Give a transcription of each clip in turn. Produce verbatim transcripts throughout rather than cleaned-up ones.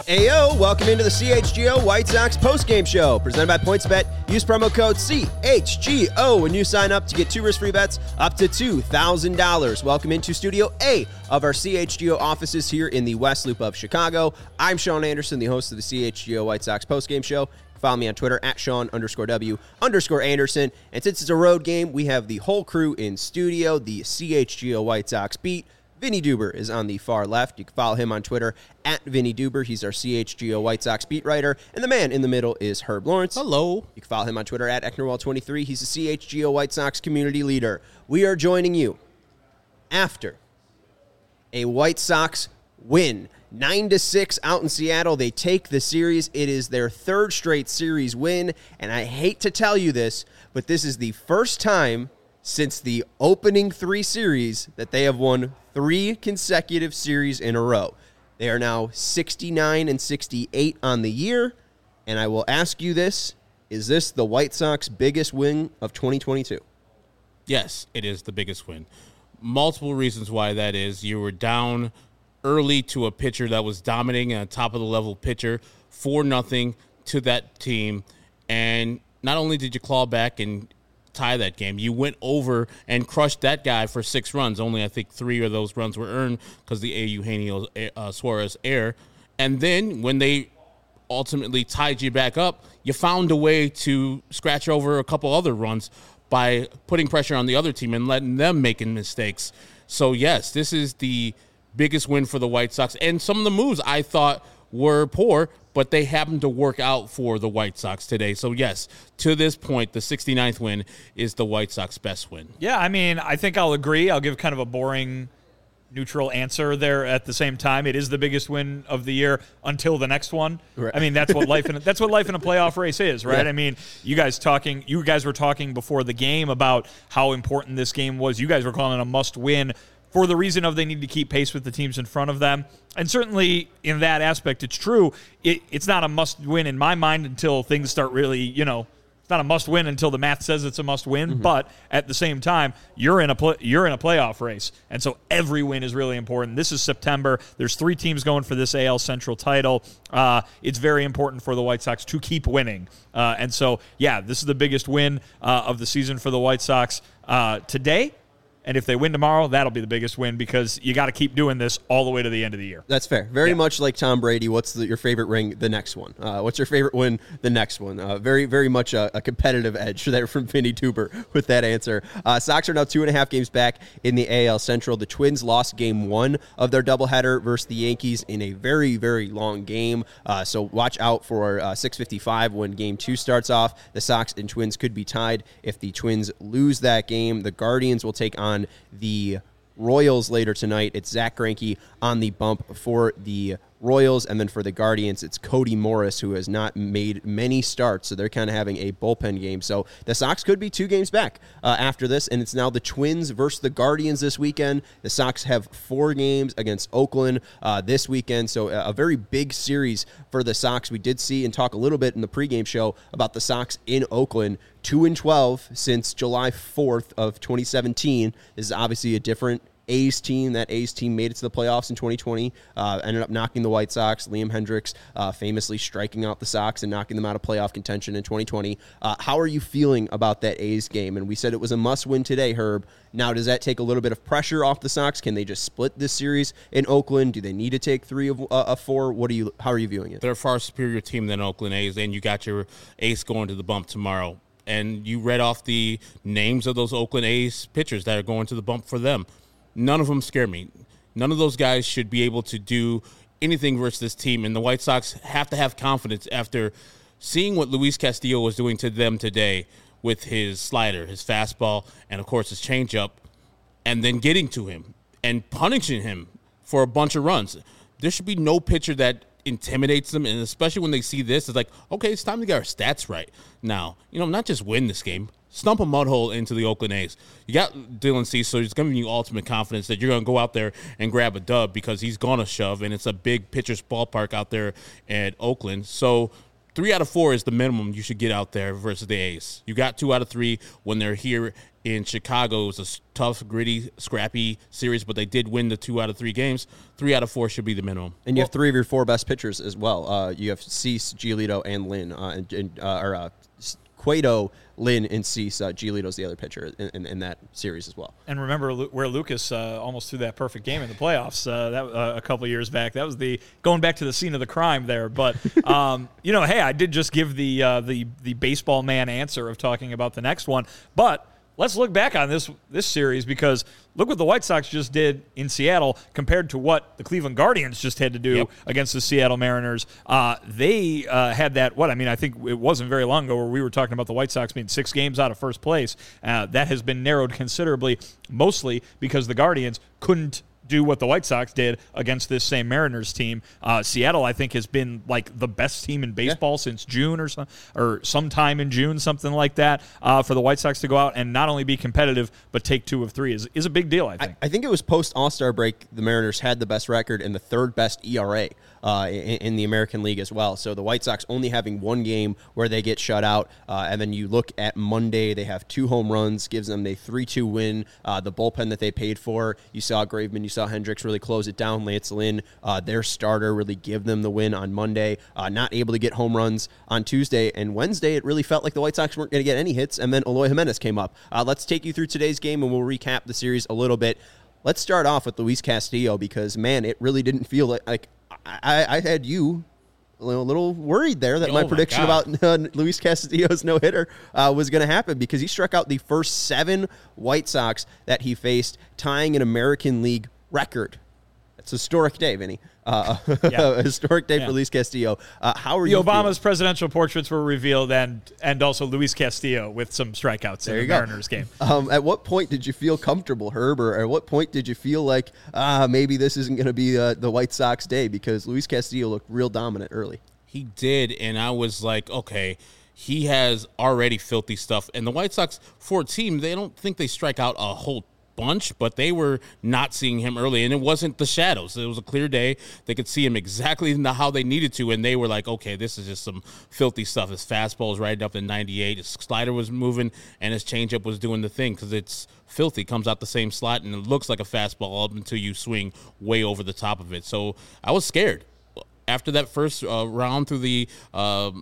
Ayo, welcome into the C H G O White Sox postgame show presented by PointsBet. Use promo code C H G O when you sign up to get two risk-free bets up to two thousand dollars. Welcome into Studio A of our C H G O offices here in the West Loop of Chicago. I'm Sean Anderson, the host of the C H G O White Sox postgame show. Follow me on Twitter at Sean underscore W underscore Anderson. And since it's a road game, we have the whole crew in studio, the C H G O White Sox beat. Vinny Duber is on the far left. You can follow him on Twitter at Vinny Duber. He's our C H G O White Sox beat writer. And the man in the middle is Herb Lawrence. Hello. You can follow him on Twitter at Ecknerwall twenty-three. He's the C H G O White Sox community leader. We are joining you after a White Sox win. nine to six out in Seattle. They take the series. It is their third straight series win. And I hate to tell you this, but this is the first time since the opening three series that they have won three consecutive series in a row. They are now sixty-nine and sixty-eight on the year, and I will ask you this, is this the White Sox biggest win of twenty twenty-two? Yes, it is the biggest win. Multiple reasons why that is. You were down early to a pitcher that was dominating, a top-of-the-level pitcher, four nothing to that team, and not only did you claw back and tie that game, you went over and crushed that guy for six runs. Only I think three of those runs were earned because the Eugenio uh, Suarez error. And then when they ultimately tied you back up, you found a way to scratch over a couple other runs by putting pressure on the other team and letting them making mistakes. So yes, this is the biggest win for the White Sox. And some of the moves I thought were poor, but they happened to work out for the White Sox today. So, yes, to this point, the sixty-ninth win is the White Sox best win. Yeah, I mean, I think I'll agree. I'll give kind of a boring, neutral answer there at the same time. It is the biggest win of the year until the next one. Right. I mean, that's what life in a, that's what life in a playoff race is, right? Yeah. I mean, you guys talking, you guys were talking before the game about how important this game was. You guys were calling it a must-win for the reason of they need to keep pace with the teams in front of them. And certainly in that aspect, it's true. It, it's not a must-win in my mind until things start really, you know, it's not a must-win until the math says it's a must-win. Mm-hmm. But at the same time, you're in a pl- you're in a playoff race. And so every win is really important. This is September. There's three teams going for this A L Central title. Uh, it's very important for the White Sox to keep winning. Uh, and so, yeah, this is the biggest win uh, of the season for the White Sox uh, today. And if they win tomorrow, that'll be the biggest win because you got to keep doing this all the way to the end of the year. That's fair. Very yeah. much like Tom Brady. What's the, your favorite ring? The next one. Uh, what's your favorite win? The next one. Uh, very, very much a, a competitive edge there from Vinny Duber with that answer. Uh, Sox are now two and a half games back in the A L Central. The Twins lost game one of their doubleheader versus the Yankees in a very, very long game. Uh, so watch out for uh, six fifty-five when game two starts off. The Sox and Twins could be tied. If the Twins lose that game, the Guardians will take on the Royals later tonight. It's Zach Greinke on the bump for the Royals, and then for the Guardians, it's Cody Morris, who has not made many starts, so they're kind of having a bullpen game. So the Sox could be two games back uh, after this, and it's now the Twins versus the Guardians this weekend. The Sox have four games against Oakland uh, this weekend, so a, a very big series for the Sox. We did see and talk a little bit in the pregame show about the Sox in Oakland, two and twelve since July fourth of twenty seventeen. This is obviously a different A's team. That A's team made it to the playoffs in twenty twenty, uh, ended up knocking the White Sox. Liam Hendricks uh, famously striking out the Sox and knocking them out of playoff contention in twenty twenty. Uh, how are you feeling about that A's game? And we said it was a must-win today, Herb. Now, does that take a little bit of pressure off the Sox? Can they just split this series in Oakland? Do they need to take three of, uh, of four? What do you? How are you viewing it? They're a far superior team than Oakland A's, and you got your ace going to the bump tomorrow. And you read off the names of those Oakland A's pitchers that are going to the bump for them. None of them scare me. None of those guys should be able to do anything versus this team. And the White Sox have to have confidence after seeing what Luis Castillo was doing to them today with his slider, his fastball, and, of course, his changeup, and then getting to him and punishing him for a bunch of runs. There should be no pitcher that intimidates them, and especially when they see this, it's like, okay, it's time to get our stats right now. You know, not just win this game, stump a mud hole into the Oakland A's. You got Dylan Cease, so he's giving you ultimate confidence that you're going to go out there and grab a dub because he's going to shove, and it's a big pitcher's ballpark out there at Oakland. So three out of four is the minimum you should get out there versus the A's. You got two out of three when they're here in Chicago. It was a tough, gritty, scrappy series, but they did win the two out of three games. Three out of four should be the minimum. And you well, have three of your four best pitchers as well. Uh, you have Cease, Giolito, and Lynn, uh, and, and uh, or uh, Cueto, Lynn, and Cease. Uh, Giolito's the other pitcher in, in, in that series as well. And remember where Lucas uh, almost threw that perfect game in the playoffs uh, that uh, a couple years back. That was the going back to the scene of the crime there. But um, you know, hey, I did just give the uh, the the baseball man answer of talking about the next one, but. Let's look back on this this series because look what the White Sox just did in Seattle compared to what the Cleveland Guardians just had to do yep. against the Seattle Mariners. Uh, they uh, had that, what, I mean, I think it wasn't very long ago where we were talking about the White Sox being six games out of first place. Uh, that has been narrowed considerably, mostly because the Guardians couldn't do what the White Sox did against this same Mariners team. Uh, Seattle, I think, has been like the best team in baseball yeah. since June or some, or sometime in June, something like that. Uh, for the White Sox to go out and not only be competitive but take two of three is is a big deal. I think. I, I think it was post All-Star break. The Mariners had the best record and the third best E R A uh, in, in the American League as well. So the White Sox only having one game where they get shut out, uh, and then you look at Monday, they have two home runs, gives them a three two win. Uh, the bullpen that they paid for, you saw Graveman, you saw Hendricks really close it down. Lance Lynn, uh, their starter, really give them the win on Monday. Uh, not able to get home runs on Tuesday. And Wednesday, it really felt like the White Sox weren't going to get any hits. And then Eloy Jimenez came up. Uh, let's take you through today's game, and we'll recap the series a little bit. Let's start off with Luis Castillo because, man, it really didn't feel like, like I, I had you a little, little worried there that oh my prediction my about uh, Luis Castillo's no-hitter uh, was going to happen because he struck out the first seven White Sox that he faced, tying an American League record. It's a historic day, Vinny. Uh, yeah. A historic day yeah. for Luis Castillo. Uh, how are the you? The Obama's feeling? presidential portraits were revealed, and and also Luis Castillo with some strikeouts there in the go. Mariners game. Um, at what point did you feel comfortable, Herb, or at what point did you feel like ah maybe this isn't going to be uh, the White Sox day because Luis Castillo looked real dominant early? He did, and I was like, okay. He has already filthy stuff, and the White Sox, for a team, they don't think they strike out a whole bunch, but they were not seeing him early, and it wasn't the shadows. It was a clear day. They could see him exactly how they needed to, and they were like, okay, this is just some filthy stuff. His fastball was right up to ninety-eight. His slider was moving, and his changeup was doing the thing because it's filthy. Comes out the same slot, and it looks like a fastball up until you swing way over the top of it. So I was scared. After that first uh, round through the um,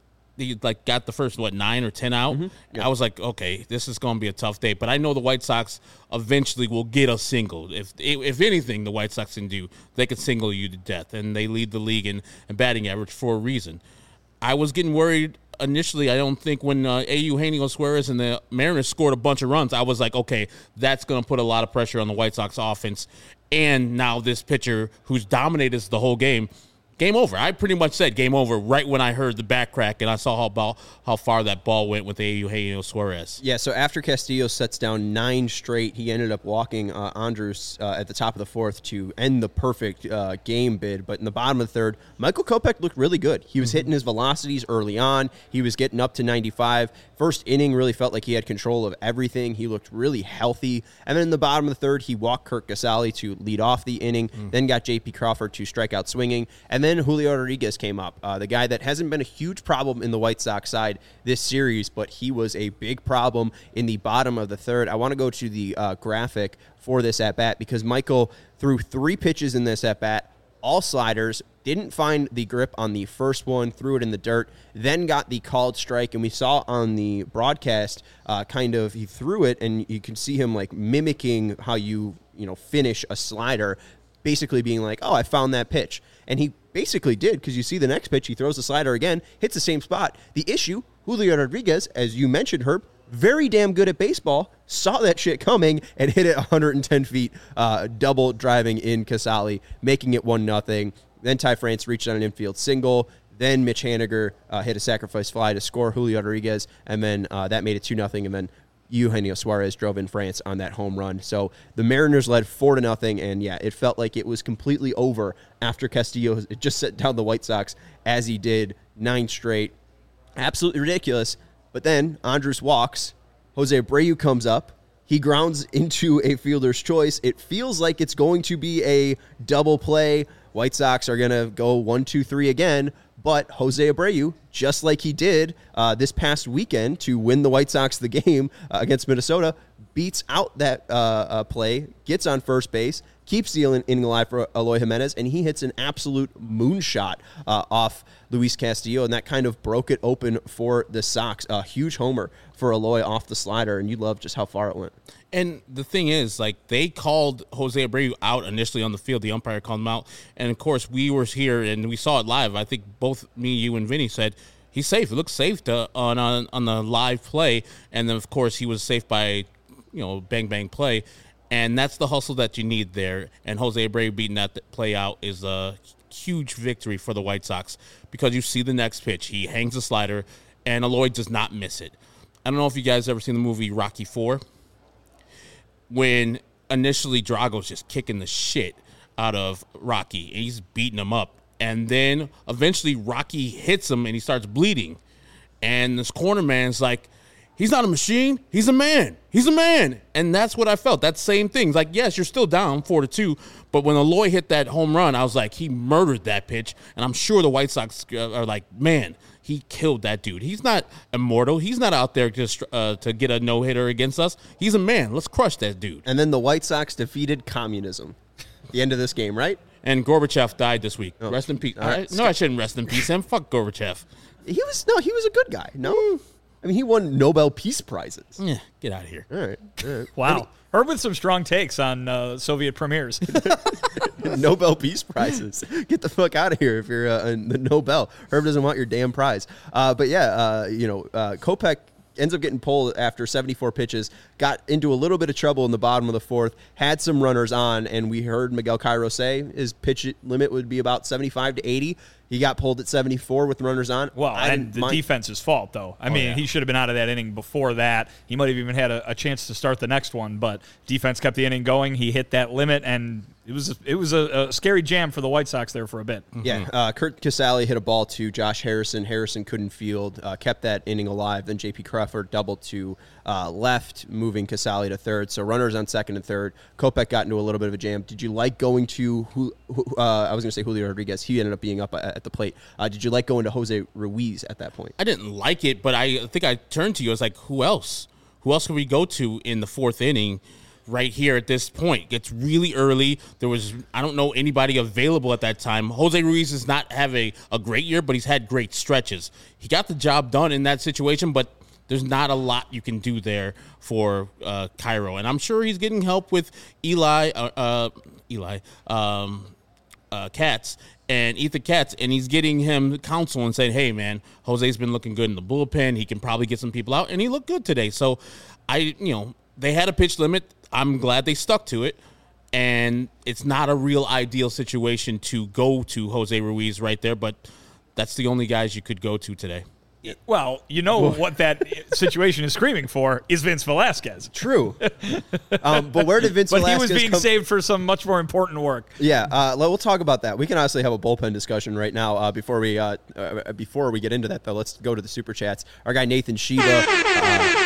he like got the first what nine or ten out. Mm-hmm. Yeah. I was like, okay, this is going to be a tough day. But I know the White Sox eventually will get a single. If if anything, the White Sox can do, they could single you to death, and they lead the league in, in batting average for a reason. I was getting worried initially. I don't think when uh, Eugenio Suarez and the Mariners scored a bunch of runs, I was like, okay, that's going to put a lot of pressure on the White Sox offense. And now this pitcher who's dominated the whole game. Game over. I pretty much said game over right when I heard the back crack and I saw how ball, how far that ball went with Eugenio Suarez. Yeah, so after Castillo sets down nine straight, he ended up walking uh, Andrus uh, at the top of the fourth to end the perfect uh, game bid. But in the bottom of the third, Michael Kopech looked really good. He was mm-hmm. hitting his velocities early on. He was getting up to ninety-five. First inning really felt like he had control of everything. He looked really healthy. And then in the bottom of the third, he walked Kirk Casale to lead off the inning, mm. then got J P Crawford to strike out swinging, and then Julio Rodriguez came up, uh, the guy that hasn't been a huge problem in the White Sox side this series, but he was a big problem in the bottom of the third. I want to go to the uh, graphic for this at-bat because Michael threw three pitches in this at-bat, all sliders, didn't find the grip on the first one, threw it in the dirt, then got the called strike, and we saw on the broadcast uh, kind of he threw it, and you can see him like mimicking how you, you know, finish a slider, basically being like, oh, I found that pitch. And he basically did, because you see the next pitch, he throws the slider again, hits the same spot. The issue, Julio Rodriguez, as you mentioned, Herb, very damn good at baseball, saw that shit coming and hit it one hundred ten feet, uh, double driving in Casale, making it one nothing. Then Ty France reached on an infield single. Then Mitch Haniger uh, hit a sacrifice fly to score Julio Rodriguez, and then uh, that made it two nothing, and then Eugenio Suarez drove in France on that home run. So the Mariners led four to nothing, and yeah, it felt like it was completely over after Castillo just set down the White Sox as he did, nine straight. Absolutely ridiculous. But then Andrus walks, Jose Abreu comes up, he grounds into a fielder's choice. It feels like it's going to be a double play. White Sox are going to go one, two, three again, But Jose Abreu, just like he did uh, this past weekend to win the White Sox the game uh, against Minnesota, beats out that uh, uh, play, gets on first base, keeps the inning alive for Eloy Jimenez, and he hits an absolute moonshot uh, off Luis Castillo, and that kind of broke it open for the Sox. A huge homer for Eloy off the slider, and you love just how far it went. And the thing is, like, they called Jose Abreu out initially on the field. The umpire called him out. And, of course, we were here, and we saw it live. I think both me, you, and Vinny said, he's safe. It looks safe to, on, on on the live play. And then, of course, he was safe by, you know, bang, bang play. And that's the hustle that you need there. And Jose Abreu beating that play out is a huge victory for the White Sox because you see the next pitch. He hangs the slider, and Eloy does not miss it. I don't know if you guys ever seen the movie Rocky four. When initially Drago's just kicking the shit out of Rocky, and he's beating him up. And then eventually Rocky hits him, and he starts bleeding. And this corner man's like, he's not a machine. He's a man. He's a man. And that's what I felt. That same thing. Like, yes, you're still down four to two, but when Eloy hit that home run, I was like, he murdered that pitch. And I'm sure the White Sox are like, man, he killed that dude. He's not immortal. He's not out there just uh, to get a no-hitter against us. He's a man. Let's crush that dude. And then the White Sox defeated communism at the end of this game, right? And Gorbachev died this week. Oh. Rest in peace. Right. I, no, I shouldn't rest in peace him. Fuck Gorbachev. He was no, he was a good guy. No, I mean he won Nobel Peace Prizes. Yeah, get out of here. All right, all right. Wow. Herb with some strong takes on uh, Soviet premiers. Nobel Peace Prizes. Get the fuck out of here if you're uh, in the Nobel. Herb doesn't want your damn prize. Uh, but yeah, uh, you know, uh, Kopech ends up getting pulled after seventy-four pitches, got into a little bit of trouble in the bottom of the fourth, had some runners on, and we heard Miguel Cairo say his pitch limit would be about seventy-five to eighty. He got pulled at seventy-four with runners on. Well, I and the mind. defense's fault, though. I Oh, mean, yeah. he should have been out of that inning before that. He might have even had a, a chance to start the next one, but defense kept the inning going. He hit that limit, and it was a, it was a, a scary jam for the White Sox there for a bit. Yeah, uh, Kurt Casale hit a ball to Josh Harrison. Harrison couldn't field, uh, kept that inning alive. Then J P Crawford doubled to uh, left, moving Casale to third. So runners on second and third. Kopech got into a little bit of a jam. Did you like going to, who? Uh, I was going to say Julio Rodriguez. He ended up being up at the plate. Uh, did you like going to Jose Ruiz at that point? I didn't like it, but I think I turned to you. I was like, who else? Who else can we go to in the fourth inning right here at this point? It's really early. There was, I don't know anybody available at that time. Jose Ruiz does not have a, a great year, but he's had great stretches. He got the job done in that situation, but there's not a lot you can do there for uh, Cairo. And I'm sure he's getting help with Eli, uh, uh, Eli, um, uh, Katz. And Ethan Katz, and he's getting him counsel and saying, hey, man, Jose's been looking good in the bullpen. He can probably get some people out, and he looked good today. So, I, you know, they had a pitch limit. I'm glad they stuck to it, and it's not a real ideal situation to go to Jose Ruiz right there, but that's the only guys you could go to today. Well, you know what that situation is screaming for is Vince Velasquez. True. um, but where did Vince But Velasquez he was being come- saved for some much more important work. Yeah, uh, we'll talk about that. We can honestly have a bullpen discussion right now. Uh, before we uh, uh, before we get into that, though, let's go to the super chats. Our guy Nathan Shiva, uh,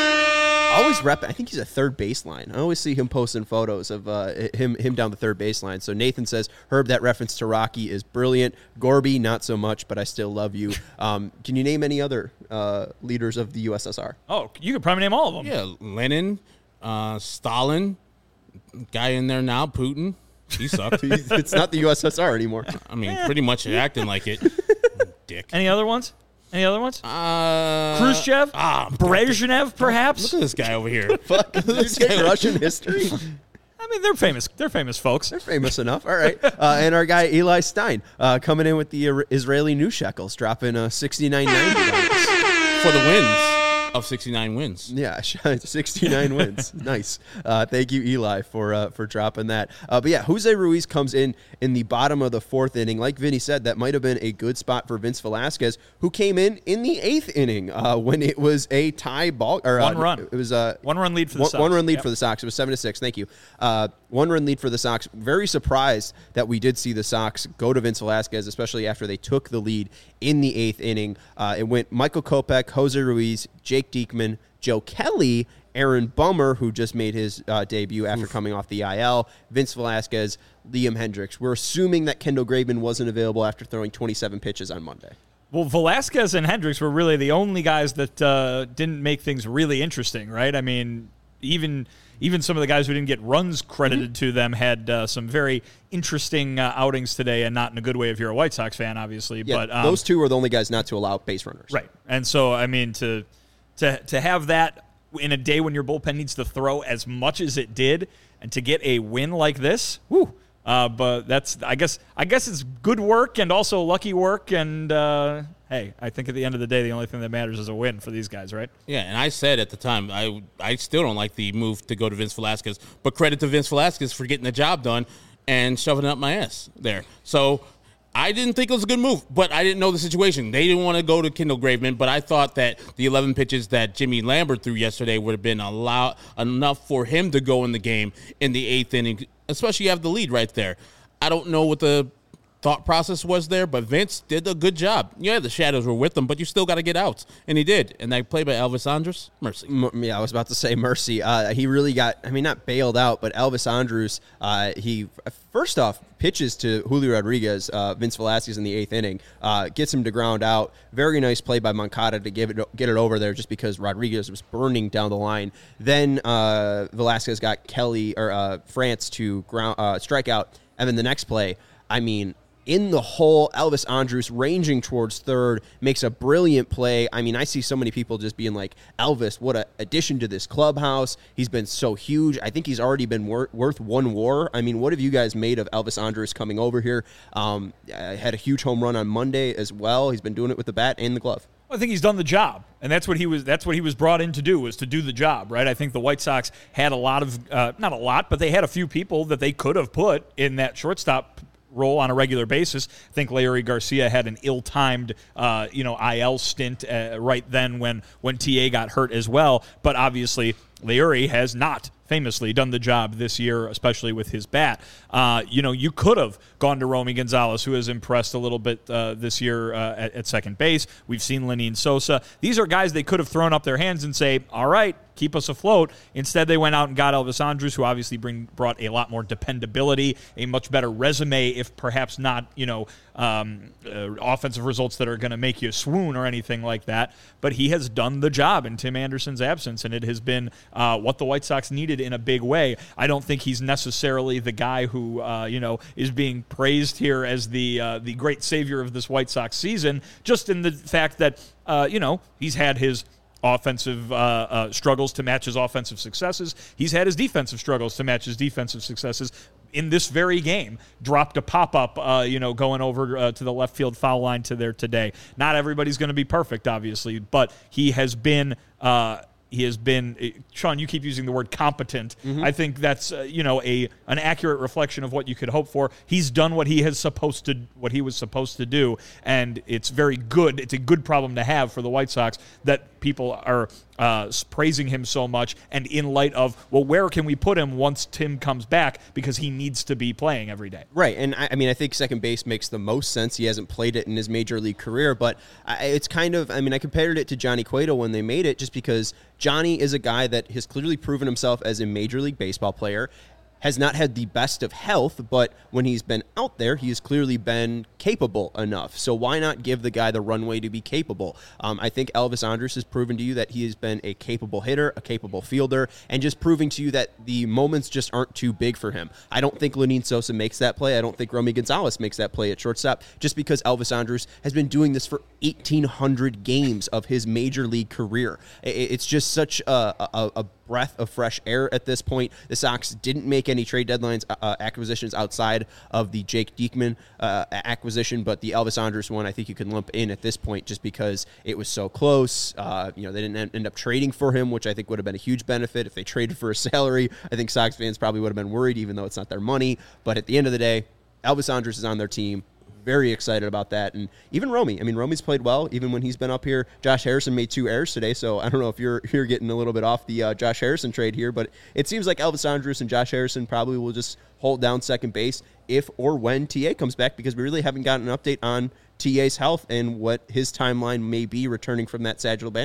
always rep. I think he's a third baseline. I always see him posting photos of uh, him him down the third baseline. So Nathan says, Herb, that reference to Rocky is brilliant. Gorby, not so much, but I still love you. Um, can you name any other uh, leaders of the U S S R? Oh, you could probably name all of them. Yeah, Lenin, uh, Stalin, guy in there now, Putin. He sucked. It's not the U S S R anymore. I mean, pretty much acting like it. Dick. Any other ones? Any other ones? Uh, Khrushchev? Ah, Brezhnev, perhaps? Look at this guy over here. Fuck, this guy Russian history. I mean, they're famous. They're famous folks. They're famous enough. All right. Uh, and our guy Eli Stein uh, coming in with the uh, Israeli new shekels, dropping a sixty-nine ninety For the wins of sixty-nine wins. Yeah, sixty-nine wins. Nice. Uh, thank you, Eli, for uh, for dropping that. Uh, but yeah, Jose Ruiz comes in in the bottom of the fourth inning. Like Vinny said, that might have been a good spot for Vince Velasquez, who came in in the eighth inning uh, when it was a tie ball. Or, One uh, run. It was a One run lead for the one, Sox. One run lead Yep. for the Sox. It was seven to six. Thank you. Uh, one run lead for the Sox. Very surprised that we did see the Sox go to Vince Velasquez, especially after they took the lead in the eighth inning. Uh, it went Michael Kopech, Jose Ruiz, Jake Diekman, Joe Kelly, Aaron Bummer, who just made his uh, debut after Oof. coming off the I L, Vince Velasquez, Liam Hendriks. We're assuming that Kendall Graveman wasn't available after throwing twenty-seven pitches on Monday. Well, Velasquez and Hendriks were really the only guys that uh, didn't make things really interesting, right? I mean, even even some of the guys who didn't get runs credited mm-hmm. to them had uh, some very interesting uh, outings today, and not in a good way if you're a White Sox fan, obviously. Yeah, but um, those two are the only guys not to allow base runners. Right. And so, I mean, to to to have that in a day when your bullpen needs to throw as much as it did, and to get a win like this, whew. Uh, but that's, I guess, I guess it's good work and also lucky work. And uh, hey, I think at the end of the day, the only thing that matters is a win for these guys, right? Yeah, and I said at the time, I I still don't like the move to go to Vince Velasquez, but credit to Vince Velasquez for getting the job done and shoving it up my ass there. So I didn't think it was a good move, but I didn't know the situation. They didn't want to go to Kendall Graveman, but I thought that the eleven pitches that Jimmy Lambert threw yesterday would have been a lot, enough for him to go in the game in the eighth inning, especially you have the lead right there. I don't know what the thought process was there, but Vince did a good job. Yeah, the shadows were with him, but you still got to get outs, and he did. And that play by Elvis Andrus, mercy. M- yeah, I was about to say mercy. Uh, he really got, I mean, not bailed out, but Elvis Andrus, uh, he, first off, pitches to Julio Rodriguez, uh, Vince Velasquez in the eighth inning, uh, gets him to ground out. Very nice play by Moncada to give it, get it over there just because Rodriguez was burning down the line. Then uh, Velasquez got Kelly, or uh, France to ground uh, strike out, and then the next play, I mean, in the hole, Elvis Andrus ranging towards third, makes a brilliant play. I mean, I see so many people just being like, Elvis, what an addition to this clubhouse. He's been so huge. I think he's already been wor- worth one war. I mean, what have you guys made of Elvis Andrus coming over here? Um, had a huge home run on Monday as well. He's been doing it with the bat and the glove. I think he's done the job, and that's what he was. That's what he was brought in to do, was to do the job, right? I think the White Sox had a lot of, uh, not a lot, but they had a few people that they could have put in that shortstop role on a regular basis. I think Leury Garcia had an ill-timed, uh, you know, I L stint uh, right then when when T A got hurt as well. But obviously, Leury has not famously done the job this year, especially with his bat. Uh, you know, you could have gone to Romy Gonzalez, who has impressed a little bit uh, this year uh, at, at second base. We've seen Lenyn Sosa. These are guys they could have thrown up their hands and say, all right, keep us afloat. Instead, they went out and got Elvis Andrus, who obviously bring brought a lot more dependability, a much better resume, if perhaps not, you know, um, uh, offensive results that are going to make you swoon or anything like that. But he has done the job in Tim Anderson's absence, and it has been uh, what the White Sox needed in a big way. I don't think he's necessarily the guy who, uh, you know, is being praised here as the uh, the great savior of this White Sox season, just in the fact that, uh, you know, he's had his offensive uh, uh, struggles to match his offensive successes. He's had his defensive struggles to match his defensive successes. In this very game, dropped a pop-up, uh, you know, going over uh, to the left field foul line to there today. Not everybody's going to be perfect, obviously, but he has been uh, he has been. Sean, you keep using the word competent. Mm-hmm. I think that's uh, you know a an accurate reflection of what you could hope for. He's done what he has supposed to what he was supposed to do, and it's very good. It's a good problem to have for the White Sox that people are uh, praising him so much, and in light of, well, where can we put him once Tim comes back, because he needs to be playing every day. Right, and I, I mean, I think second base makes the most sense. He hasn't played it in his major league career, but I, it's kind of, I mean, I compared it to Johnny Cueto when they made it, just because Johnny is a guy that has clearly proven himself as a Major League Baseball player, has not had the best of health, but when he's been out there, he has clearly been capable enough. So why not give the guy the runway to be capable? Um, I think Elvis Andrus has proven to you that he has been a capable hitter, a capable fielder, and just proving to you that the moments just aren't too big for him. I don't think Lenyn Sosa makes that play. I don't think Romy Gonzalez makes that play at shortstop, just because Elvis Andrus has been doing this for eighteen hundred games of his major league career. It's just such a, a, a breath of fresh air at this point. The Sox didn't make any trade deadlines uh, acquisitions outside of the Jake Diekman uh, acquisition, but the Elvis Andrus one I think you can lump in at this point just because it was so close. Uh, you know, they didn't end up trading for him, which I think would have been a huge benefit. If they traded for a salary, I think Sox fans probably would have been worried, even though it's not their money. But at the end of the day, Elvis Andrus is on their team. Very excited about that. And even Romy. I mean, Romy's played well, even when he's been up here. Josh Harrison made two errors today, so I don't know if you're you're getting a little bit off the uh, Josh Harrison trade here, but it seems like Elvis Andrus and Josh Harrison probably will just hold down second base if or when T A comes back, because we really haven't gotten an update on T A's health and what his timeline may be returning from that sagittal band tear.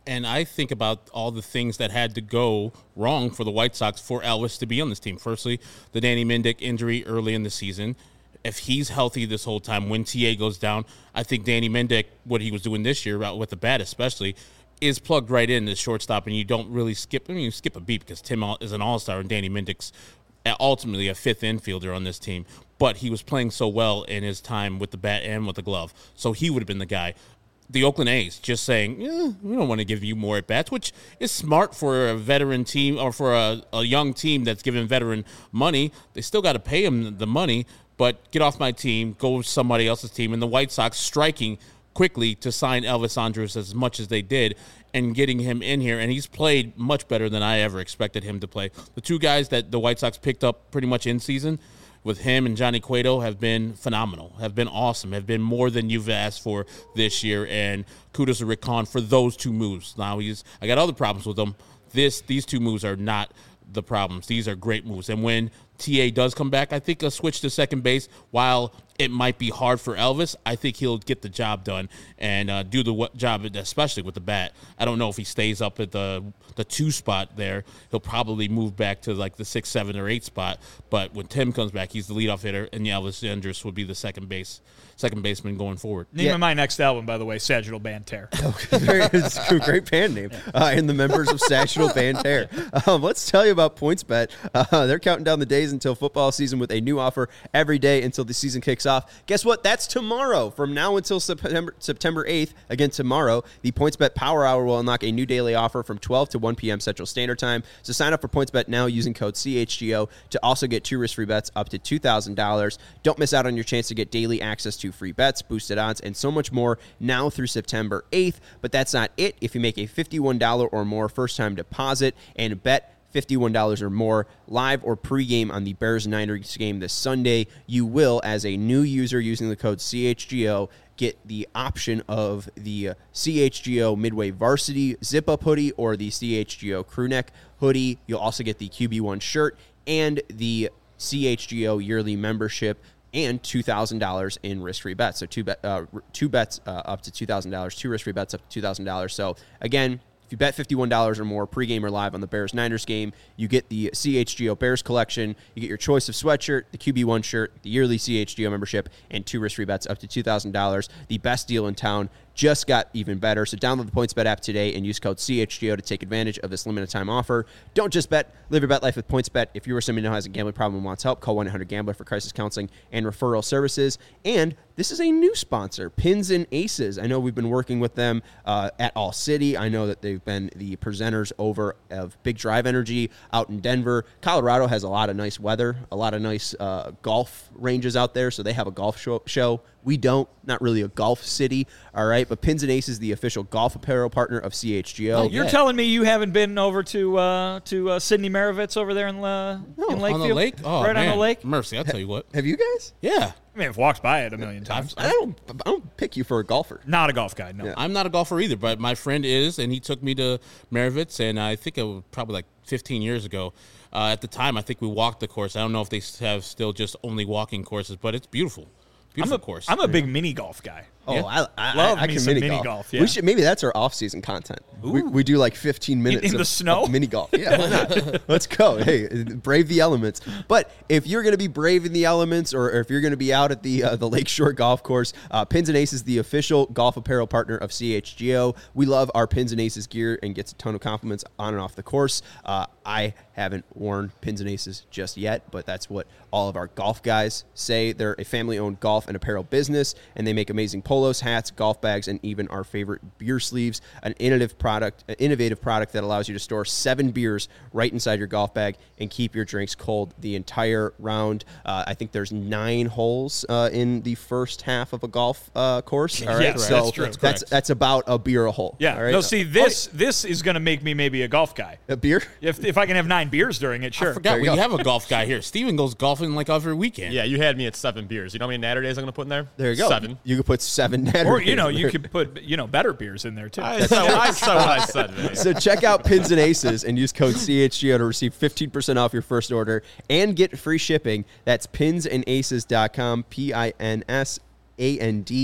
And I think about all the things that had to go wrong for the White Sox for Elvis to be on this team. Firstly, the Danny Mendick injury early in the season. If he's healthy this whole time, when T A goes down, I think Danny Mendick, what he was doing this year with the bat especially, is plugged right in as shortstop, and you don't really skip. I mean, you skip a beat because Tim is an all-star and Danny Mendick's ultimately a fifth infielder on this team. But he was playing so well in his time with the bat and with the glove, so he would have been the guy. The Oakland A's just saying, eh, we don't want to give you more at-bats, which is smart for a veteran team or for a, a young team that's giving veteran money. They still got to pay him the money, but get off my team, go with somebody else's team. And the White Sox striking quickly to sign Elvis Andrus as much as they did and getting him in here. And he's played much better than I ever expected him to play. The two guys that the White Sox picked up pretty much in season with him and Johnny Cueto have been phenomenal, have been awesome, have been more than you've asked for this year. And kudos to Rick Hahn for those two moves. Now, he's I got other problems with them. This These two moves are not the problems. These are great moves. And when T A does come back, I think a switch to second base, while it might be hard for Elvis, I think he'll get the job done and uh, do the w- job, especially with the bat. I don't know if he stays up at the the two spot there. He'll probably move back to like the six, seven, or eight spot. But when Tim comes back, he's the leadoff hitter, and Elvis Andrus would be the second base second baseman going forward. Name Yeah. of my next album, by the way, Sagittal Banter. Very, it's a great band name. Uh, and the members of Sagittal Banter. Um, let's tell you about PointsBet. Uh, they're counting down the days until football season with a new offer every day until the season kicks off. Guess what? That's tomorrow. From now until September September eighth, again tomorrow, the PointsBet Power Hour will unlock a new daily offer from twelve to one p.m. Central Standard Time. So sign up for PointsBet now using code C H G O to also get two risk-free bets up to two thousand dollars. Don't miss out on your chance to get daily access to free bets, boosted odds, and so much more now through September eighth. But that's not it. If you make a fifty-one dollars or more first-time deposit and bet fifty-one dollars or more live or pregame on the Bears-Niners game this Sunday, you will, as a new user using the code C H G O, get the option of the C H G O Midway Varsity Zip-Up Hoodie or the C H G O Crewneck Hoodie. You'll also get the Q B one shirt and the C H G O yearly membership and two thousand dollars in risk-free bets. So two, bet, uh, two bets uh, up to two thousand dollars, two risk-free bets up to two thousand dollars. So, again, if you bet fifty-one dollars or more pregame or live on the Bears-Niners game, you get the C H G O Bears collection, you get your choice of sweatshirt, the Q B one shirt, the yearly C H G O membership, and two risk-free bets up to two thousand dollars. The best deal in town just got even better. So download the PointsBet app today and use code C H G O to take advantage of this limited time offer. Don't just bet, live your bet life with PointsBet. If you or somebody who has a gambling problem and wants help, call one eight hundred gambler for crisis counseling and referral services. And this is a new sponsor, Pins and Aces. I know we've been working with them uh, at All City. I know that they've been the presenters over of Big Drive Energy out in Denver. Colorado has a lot of nice weather, a lot of nice uh, golf ranges out there, so they have a golf show. show. We don't, not really a golf city, all right? But Pins and Aces, the official golf apparel partner of C H G O. Oh, you're yeah. telling me you haven't been over to uh, to uh, Sidney Maravitz over there in, uh, No, in on Lakefield? On the lake? Oh, right man. on the lake? Mercy, I'll tell you what. Have you guys? Yeah. I mean, I've walked by it a million times. I don't, I don't pick you for a golfer. Not a golf guy, no. Yeah. I'm not a golfer either, but my friend is, and he took me to Maravitz, and I think it was probably like fifteen years ago. Uh, at the time, I think we walked the course. I don't know if they have still just only walking courses, but it's beautiful. Beautiful I'm a, course. I'm a big mini golf guy. Oh, Yeah. I, I Love I, I me can some mini, mini golf. golf, yeah. We should maybe that's our off-season content. We, we do like fifteen minutes in of, the snow? of mini golf. Yeah, why not? Let's go. Hey, brave the elements. But if you're going to be braving the elements, or, or if you're going to be out at the uh, the Lakeshore Golf Course, uh, Pins and Aces, the official golf apparel partner of C H G O. We love our Pins and Aces gear and gets a ton of compliments on and off the course. Uh, I haven't worn Pins and Aces just yet, but that's what all of our golf guys say. They're a family-owned golf and apparel business, and they make amazing polos, hats, golf bags, and even our favorite beer sleeves. An innovative product, an innovative product that allows you to store seven beers right inside your golf bag and keep your drinks cold the entire round. Uh, I think there's nine holes uh, in the first half of a golf uh, course. All right, Yes, so that's true. that's Correct. that's about a beer a hole. Yeah. all right? No, see, this this is going to make me maybe a golf guy. a beer. If if I can have nine beers during it, sure. I forgot There we you go. have a golf guy here. Steven goes golfing like every weekend. Yeah, you had me at seven beers. You know how many Natter days I'm going to put in there? There you go. Seven. You could put seven. Or, you know, you could put, you know, better beers in there, too. I said, I said what I said, man. So check out Pins and Aces and use code C H G O to receive fifteen percent off your first order and get free shipping. That's pins and aces dot com, P I N S A N D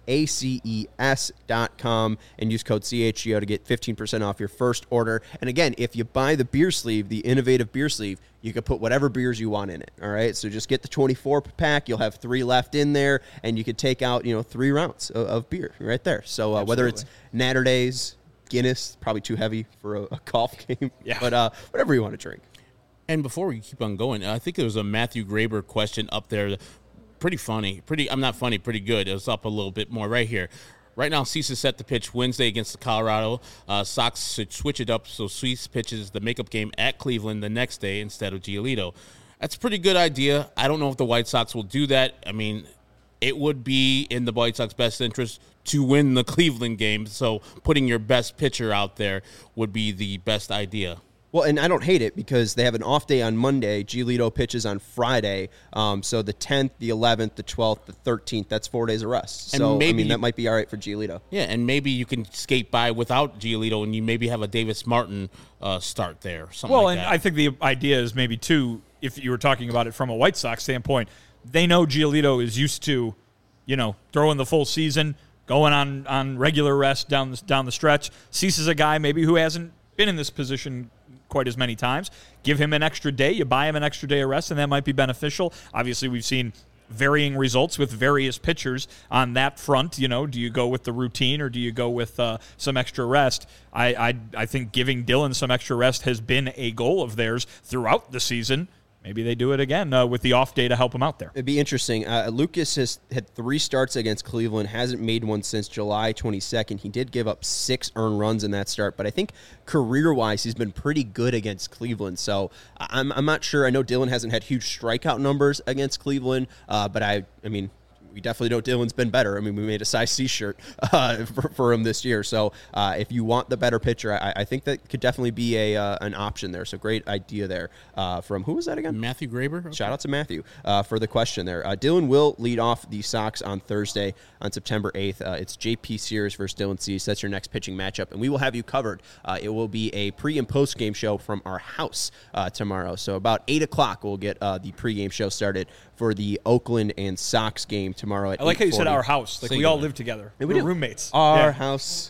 A C E S dot com, and use code C H G O to get fifteen percent off your first order. And again, if you buy the beer sleeve, the innovative beer sleeve, you can put whatever beers you want in it, all right? So just get the twenty-four pack. You'll have three left in there, and you can take out, you know, three rounds of, of beer right there. So uh, whether it's Natter Days, Guinness, probably too heavy for a, a golf game, yeah. but uh, whatever you want to drink. And before we keep on going, I think there was a Matthew Graber question up there. Pretty funny. Pretty. I'm not funny. Pretty good. It was up a little bit more right here. Right now, Cease is set to pitch Wednesday against the Colorado. Uh, Sox should switch it up so Cease pitches the makeup game at Cleveland the next day instead of Giolito. That's a pretty good idea. I don't know if the White Sox will do that. I mean, it would be in the White Sox best interest to win the Cleveland game, so putting your best pitcher out there would be the best idea. Well, and I don't hate it because they have an off day on Monday. Giolito pitches on Friday. Um, so the tenth, the eleventh, the twelfth, the thirteenth, that's four days of rest. And so, maybe I mean, you, that might be all right for Giolito. Yeah, and maybe you can skate by without Giolito and you maybe have a Davis Martin uh, start there. Something well, like and that. I think the idea is maybe, too, if you were talking about it from a White Sox standpoint, they know Giolito is used to, you know, throwing the full season, going on, on regular rest down the, down the stretch. Cease is a guy maybe who hasn't been in this position quite as many times. Give him an extra day. You buy him an extra day of rest, and that might be beneficial. Obviously, we've seen varying results with various pitchers on that front. You know, do you go with the routine or do you go with uh, some extra rest? I, I I think giving Dylan some extra rest has been a goal of theirs throughout the season. Maybe they do it again uh, with the off day to help him out there. It'd be interesting. Uh, Lucas has had three starts against Cleveland, hasn't made one since July twenty-second. He did give up six earned runs in that start, but I think career-wise he's been pretty good against Cleveland. So I'm I'm not sure. I know Dylan hasn't had huge strikeout numbers against Cleveland, uh, but I I mean, we definitely know Dylan's been better. I mean, we made a size C shirt uh, for, for him this year. So uh, if you want the better pitcher, I, I think that could definitely be a uh, an option there. So great idea there uh, from, who was that again? Matthew Graber. Okay. Shout out to Matthew uh, for the question there. Uh, Dylan will lead off the Sox on Thursday on September eighth. Uh, it's J P Sears versus Dylan Cease. That's your next pitching matchup, and we will have you covered. Uh, it will be a pre- and post-game show from our house uh, tomorrow. So about eight o'clock, we'll get uh, the pre-game show started for the Oakland and Sox game tomorrow at I like how you said eight forty. our house. Like, we Singular. all live together. Yeah, We're we do. roommates. Our Yeah. house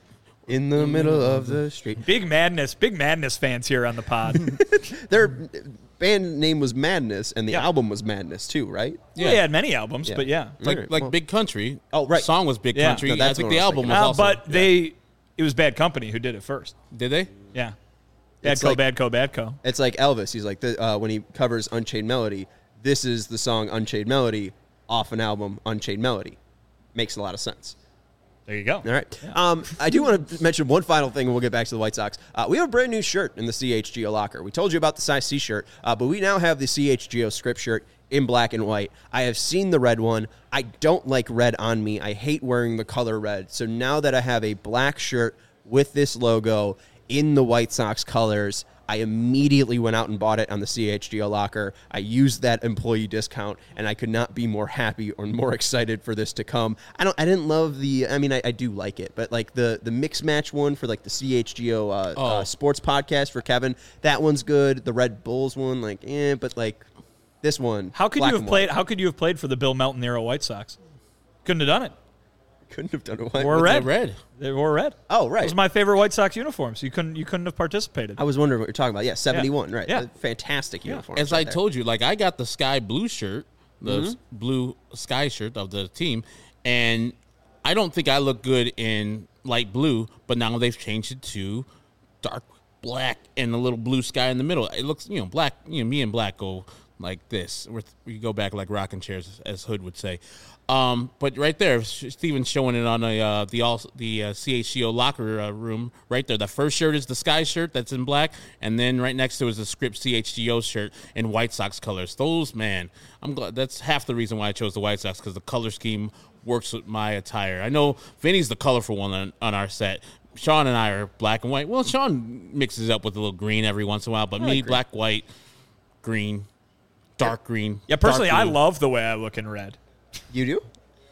in the middle of the street. Big Madness. Big Madness fans here on the pod. Their band name was Madness, and the Yeah. album was Madness too, right? Yeah. They had many albums, Yeah. but yeah. Like Alright, like well- Big Country. Oh, right. Song was Big Yeah. Country. No, that's I think what the I was album thinking. was Uh, also. but they, it was Bad Company who did it first. Did they? Yeah. Bad It's Co, like- Bad Co, Bad Co. It's like Elvis. He's like, the, uh, when he covers Unchained Melody, this is the song Unchained Melody off an album, Unchained Melody. Makes a lot of sense. There you go. All right. Um, I do want to mention one final thing, and we'll get back to the White Sox. Uh, we have a brand new shirt in the C H G O locker. We told you about the size C shirt, uh, but we now have the C H G O script shirt in black and white. I have seen the red one. I don't like red on me. I hate wearing the color red. So now that I have a black shirt with this logo in the White Sox colors, I immediately went out and bought it on the C H G O locker. I used that employee discount, and I could not be more happy or more excited for this to come. I don't. I didn't love the. I mean, I, I do like it, but like the the mix match one for like the C H G O uh, Oh. uh, sports podcast for Kevin. That one's good. The Red Bulls one, like, eh, but like this one. How could black you have and played? white. How could you have played for the Bill Melton era White Sox? Couldn't have done it. Couldn't have done it. What? Or What's red. The red. They wore red. Oh, It right. was my favorite White Sox uniforms. You couldn't. You couldn't have participated. I was wondering what you're talking about. Yeah, seventy-one. Right. Yeah. A fantastic uniform. As I told you, like I got the sky blue shirt, the Mm-hmm. s- blue sky shirt of the team, and I don't think I look good in light blue, but now they've changed it to dark black and a little blue sky in the middle. It looks, you know, black. You know, me and black go like this. We're, we go back like rocking chairs, as Hood would say. Um, but right there, Steven's showing it on a, uh, the all the uh, C H C O locker uh, room right there. The first shirt is the sky shirt that's in black, and then right next to it is the script C H G O shirt in White Sox colors. Those, man, I'm glad. That's half the reason why I chose the White Sox, because the color scheme works with my attire. I know Vinny's the colorful one on, on our set. Sean and I are black and white. Well, Sean mixes up with a little green every once in a while, but me, like green. black, white, green, dark green. yeah, personally, dark I blue. love the way I look in red. You do?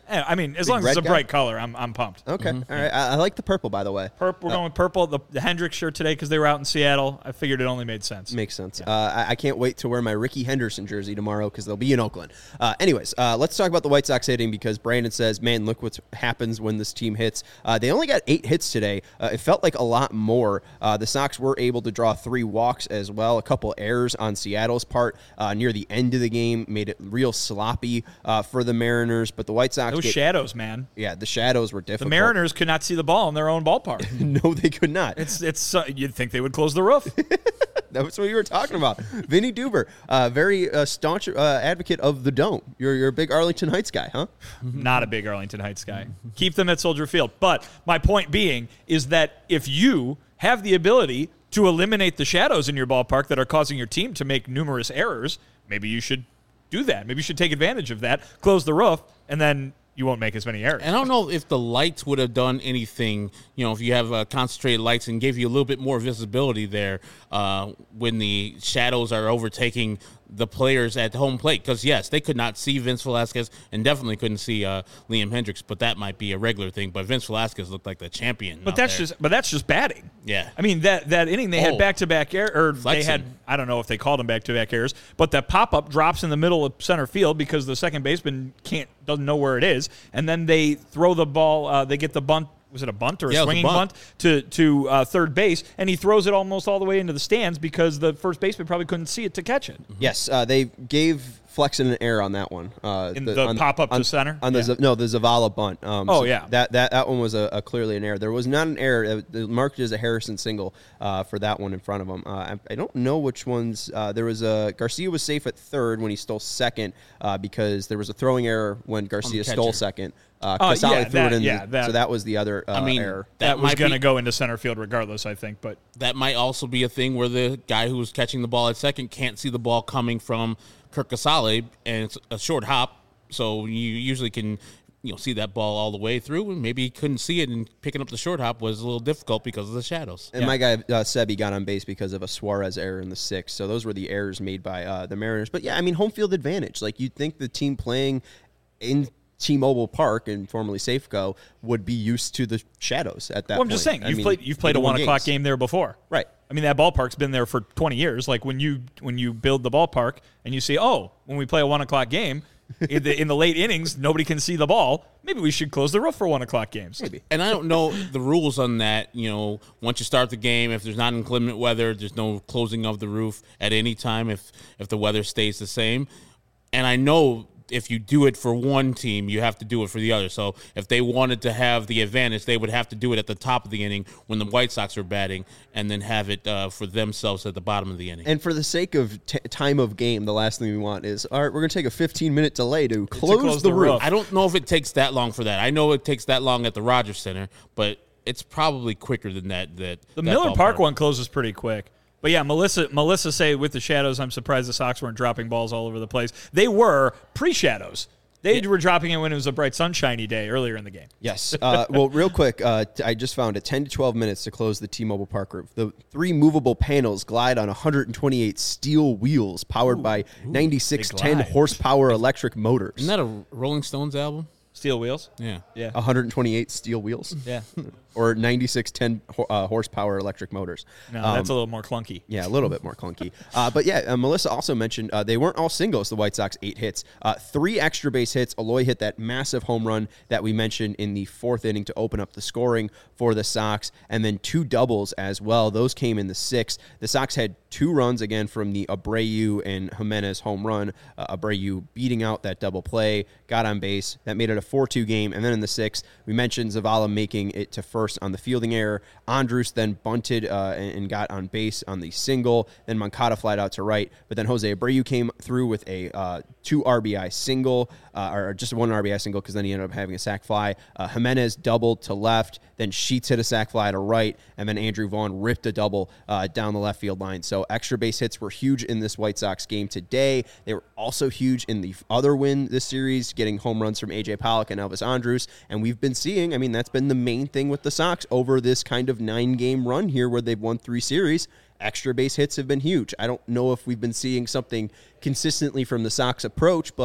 Eh, I mean, as Big long as it's red a guy? bright color, I'm I'm pumped. Okay, all right. I, I like the purple, by the way. Purp, we're going with purple. The, the Hendricks shirt today because they were out in Seattle. I figured it only made sense. Makes sense. Uh, I, I can't wait to wear my Ricky Henderson jersey tomorrow because they'll be in Oakland. Uh, anyways, uh, let's talk about the White Sox hitting because Brandon says, man, look what happens when this team hits. Uh, they only got eight hits today. Uh, it felt like a lot more. Uh, the Sox were able to draw three walks as well. A couple errors on Seattle's part uh, near the end of the game made it real sloppy uh, for the Mariners. But the White Sox Those get, shadows, man. yeah, the shadows were The difficult. Mariners could not see the ball in their own ballpark. no, they could not. It's it's. Uh, you'd think they would close the roof. That's what you were talking about. Vinny Duber, uh, very uh, staunch uh, advocate of the Dome. You're, you're a big Arlington Heights guy, huh? Not a big Arlington Heights guy. Keep them at Soldier Field. But my point being is that if you have the ability to eliminate the shadows in your ballpark that are causing your team to make numerous errors, maybe you should do that. Maybe you should take advantage of that, close the roof, and then you won't make as many errors. And I don't know if the lights would have done anything, you know, if you have uh, concentrated lights and gave you a little bit more visibility there uh, when the shadows are overtaking the players at home plate. Because, yes, they could not see Vince Velasquez and definitely couldn't see uh, Liam Hendricks, but that might be a regular thing. But Vince Velasquez looked like the champion. But out that's there. just but that's just batting. Yeah. I mean that that inning they Oh. had back to back error or they Flexing. had I don't know if they called them back to back errors, but that pop up drops in the middle of center field because the second baseman can't doesn't know where it is, and then they throw the ball. Uh, they get the bunt. Was it a bunt or a Yeah, it was a swinging bunt. bunt. to to uh, third base, and he throws it almost all the way into the stands because the first baseman probably couldn't see it to catch it. Yes, uh, they gave Flexen an error on that one. Uh, In the on- pop-up to on- center? On the Yeah. Z- no, the Zavala bunt. Um, Oh, so yeah. that that that one was a, a clearly an error. There was not an error. It was marked as a Harrison single uh, for that one in front of him. Uh, I, I don't know which ones. Uh, there was a Garcia was safe at third when he stole second uh, because there was a throwing error when Garcia catcher. stole second. Uh, Oh, Casale yeah, threw that- it in, yeah, the- that- so that was the other uh, I mean, error. That, That was might going to be- go into center field regardless, I think. But That might also be a thing where the guy who was catching the ball at second can't see the ball coming from Kirk Casale, and it's a short hop, so you usually can you know see that ball all the way through, and maybe he couldn't see it, and picking up the short hop was a little difficult because of the shadows. And my guy uh, Sebi got on base because of a Suarez error in the sixth. So those were the errors made by uh, the Mariners. But yeah, I mean, home field advantage. Like you'd think the team playing in T-Mobile Park and formerly Safeco would be used to the shadows at that well, I'm point. just saying I you've mean, played you've played a people win one o'clock games. game there before, Right. I mean, that ballpark's been there for twenty years. Like when you when you build the ballpark and you see, oh, when we play a one o'clock game, in the in the late innings, nobody can see the ball. Maybe we should close the roof for one o'clock games. Maybe. And I don't know the rules on that. You know, once you start the game, if there's not inclement weather, there's no closing of the roof at any time if if the weather stays the same. And I know if you do it for one team, you have to do it for the other. So if they wanted to have the advantage, they would have to do it at the top of the inning when the White Sox are batting, and then have it uh, for themselves at the bottom of the inning. And for the sake of t- time of game, the last thing we want is, all right, we're going to take a fifteen-minute delay to close, close the, the roof. roof. I don't know if it takes that long for that. I know it takes that long at the Rogers Center, but it's probably quicker than that. That The that Miller ballpark. Park one closes pretty quick. But yeah, Melissa Melissa say with the shadows, I'm surprised the Sox weren't dropping balls all over the place. They were pre-shadows. They were dropping it when it was a bright sunshiny day earlier in the game. Yes. Uh, well, real quick, uh, t- I just found it ten to twelve minutes to close the T-Mobile Park roof. The three movable panels glide on one hundred twenty-eight steel wheels powered by ninety-six ten glide. horsepower electric motors. Isn't that a Rolling Stones album? Steel wheels. Yeah. Yeah. one hundred twenty-eight steel wheels? Yeah. Or ninety-six ten ho- uh, horsepower electric motors. No, Um, that's a little more clunky. Yeah, a little bit more clunky. Uh, but yeah, uh, Melissa also mentioned uh, they weren't all singles, the White Sox, eight hits. Uh, three extra base hits. Eloy hit that massive home run that we mentioned in the fourth inning to open up the scoring for the Sox, and then two doubles as well. Those came in the sixth. The Sox had two runs again from the Abreu and Jimenez home run. Uh, Abreu beating out that double play, got on base. That made it a four two game. And then in the sixth, we mentioned Zavala making it to first on the fielding error. Andrus then bunted uh, and, and got on base on the single. Then Moncada flied out to right. But then Jose Abreu came through with a uh, two R B I single, uh, or just one R B I single because then he ended up having a sac fly. Uh, Jimenez doubled to left. Then Sheets hit a sac fly to right. And then Andrew Vaughn ripped a double uh, down the left field line. So extra base hits were huge in this White Sox game today. They were also huge in the other win this series, getting home runs from A J Pollock and Elvis Andrus. And we've been seeing, I mean, that's been the main thing with the Sox over this kind of nine-game run here where they've won three series. Extra base hits have been huge. I don't know if we've been seeing something consistently from the Sox approach, but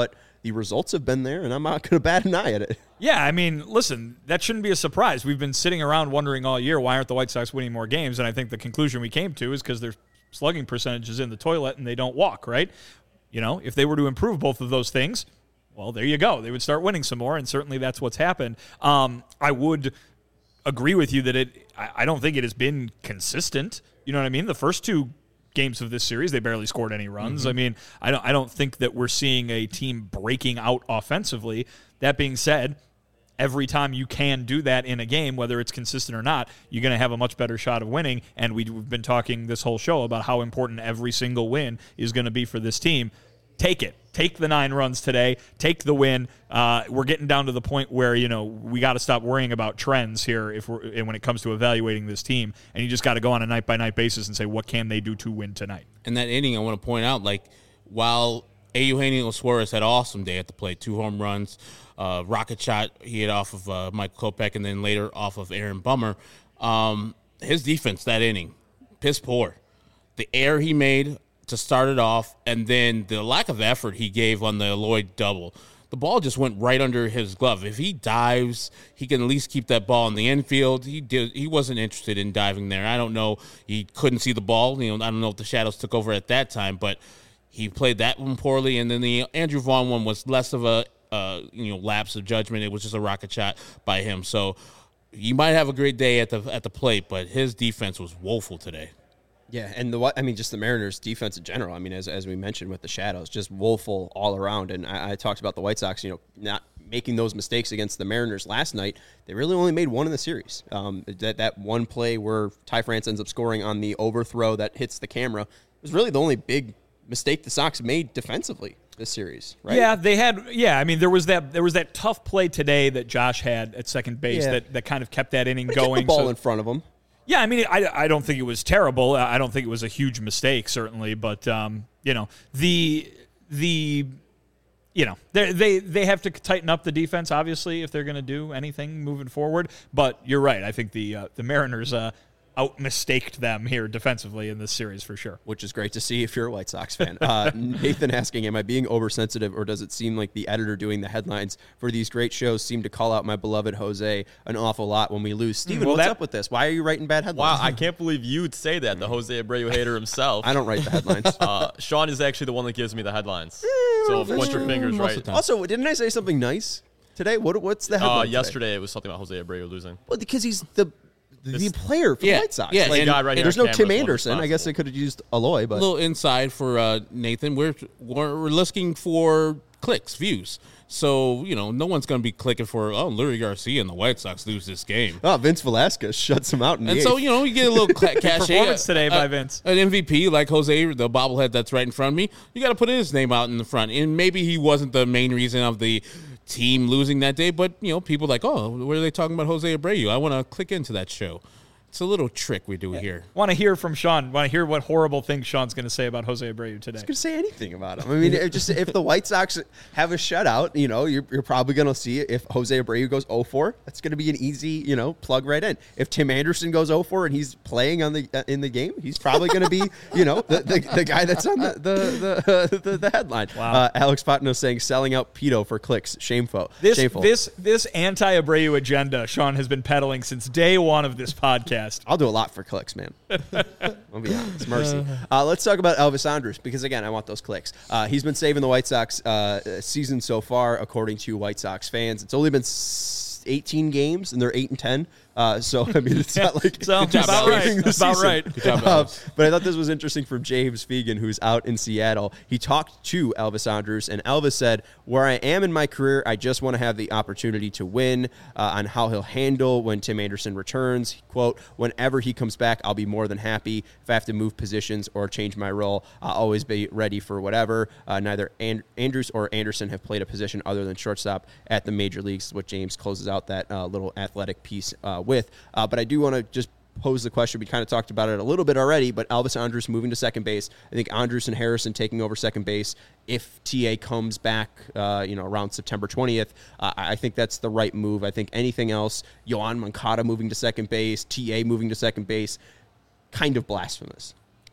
the results have been there, and I'm not going to bat an eye at it. Yeah, I mean, listen, that shouldn't be a surprise. We've been sitting around wondering all year, why aren't the White Sox winning more games? And I think the conclusion we came to is because their slugging percentage is in the toilet and they don't walk, right? You know, if they were to improve both of those things, well, there you go. They would start winning some more, and certainly that's what's happened. Um, I would agree with you that it. I, I don't think it has been consistent. You know what I mean? The first two games of this series, they barely scored any runs. Mm-hmm. I mean, I don't. I don't think that we're seeing a team breaking out offensively. That being said, every time you can do that in a game, whether it's consistent or not, you're going to have a much better shot of winning. And we've been talking this whole show about how important every single win is going to be for this team. Take it. Take the nine runs today. Take the win. Uh, we're getting down to the point where, you know, we got to stop worrying about trends here if we're, and when it comes to evaluating this team. And you just got to go on a night-by-night basis and say, what can they do to win tonight? And that inning, I want to point out, like, while Eugenio Suarez had an awesome day at the plate, two home runs, uh, rocket shot he hit off of uh, Mike Kopech, and then later off of Aaron Bummer, um, his defense that inning, piss poor. The error he made to start it off, and then the lack of effort he gave on the Eloy double. The ball just went right under his glove. If he dives, he can at least keep that ball in the infield. He did. He wasn't interested in diving there. I don't know. He couldn't see the ball. You know, I don't know if the shadows took over at that time, but he played that one poorly. And then the Andrew Vaughn one was less of a uh, you know lapse of judgment. It was just a rocket shot by him. So you might have a great day at the at the plate, but his defense was woeful today. Yeah, and the I mean, just the Mariners' defense in general. I mean, as as we mentioned with the shadows, just woeful all around. And I, I talked about the White Sox, you know, not making those mistakes against the Mariners last night. They really only made one in the series. Um, that that one play where Ty France ends up scoring on the overthrow that hits the camera was really the only big mistake the Sox made defensively this series, right? Yeah, they had. Yeah, I mean, there was that there was that tough play today that Josh had at second base Yeah. that, that kind of kept that inning But going. kept the ball so, in front of him. Yeah, I mean, I, I don't think it was terrible. I don't think it was a huge mistake, certainly. But um, you know, the the you know they they they have to tighten up the defense, obviously, if they're going to do anything moving forward. But you're right. I think the uh, the Mariners uh, out mistaked them here defensively in this series for sure. Which is great to see if you're a White Sox fan. Uh, Nathan asking, am I being oversensitive, or does it seem like the editor doing the headlines for these great shows seem to call out my beloved Jose an awful lot when we lose? Steven, well, what's that- up with this? Why are you writing bad headlines? Wow, I can't believe you'd say that, the Jose Abreu hater himself. I don't write the headlines. Uh, Sean is actually the one that gives me the headlines. So that's point your true. fingers Most right. of the time. Also, didn't I say something nice today? What What's the headline Uh, today? yesterday, it was something about Jose Abreu losing. Well, because he's the the This- player for Yeah, the White Sox. yeah, Like, and- guy right here there's on no camera Tim is the one Anderson. I guess responsible. they could have used Aloy, A but little inside for uh, Nathan. We're, we're we're looking for clicks, views. So you know, no one's going to be clicking for oh, Lurie Garcia and the White Sox lose this game. oh, Vince Velasquez shuts him out in the And so eighth. you know, you get a little cla- cachet. Performance today by uh, Vince. An M V P like Jose, the bobblehead that's right in front of me. You got to put his name out in the front. And maybe he wasn't the main reason of the team losing that day, but you know, people like, oh, what are they talking about Jose Abreu? I want to click into that show. It's a little trick we do here. Want to hear from Sean? Want to hear what horrible things Sean's going to say about Jose Abreu today? Could say anything about him. I mean, if just if the White Sox have a shutout, you know, you're, you're probably going to see it. If Jose Abreu goes oh for, that's going to be an easy, you know, plug right in. If Tim Anderson goes oh for and he's playing on the uh, in the game, he's probably going to be, you know, the, the, the guy that's on the the the, the, the headline. Wow. Uh, Alex Patino saying selling out Pito for clicks, shameful. This shameful. this this anti-Abreu agenda Sean has been peddling since day one of this podcast. I'll do a lot for clicks, man. I'll be honest. Mercy. Uh, let's talk about Elvis Andrus, because, again, I want those clicks. Uh, he's been saving the White Sox uh, season so far, according to White Sox fans. It's only been s- eighteen games, and they're eight and ten. Uh, so, I mean, it's not like So, he's about saving right. the About season. right. Good job, Uh, Elvis. but I thought this was interesting from James Fegan, who's out in Seattle. He talked to Elvis Andrus, and Elvis said, where I am in my career, I just want to have the opportunity to win. Uh, on how he'll handle when Tim Anderson returns. Quote, whenever he comes back, I'll be more than happy. If I have to move positions or change my role, I'll always be ready for whatever. Uh, neither And- Andrus or Anderson have played a position other than shortstop at the major leagues, what James closes out that uh, little athletic piece uh, with. Uh, but I do want to just pose the question. We kind of talked about it a little bit already, but Elvis Andrus moving to second base. I think Andrus and Harrison taking over second base. If T A comes back, uh, you know, around September twentieth, uh, I think that's the right move. I think anything else, Yoan Moncada moving to second base, T A moving to second base, kind of blasphemous.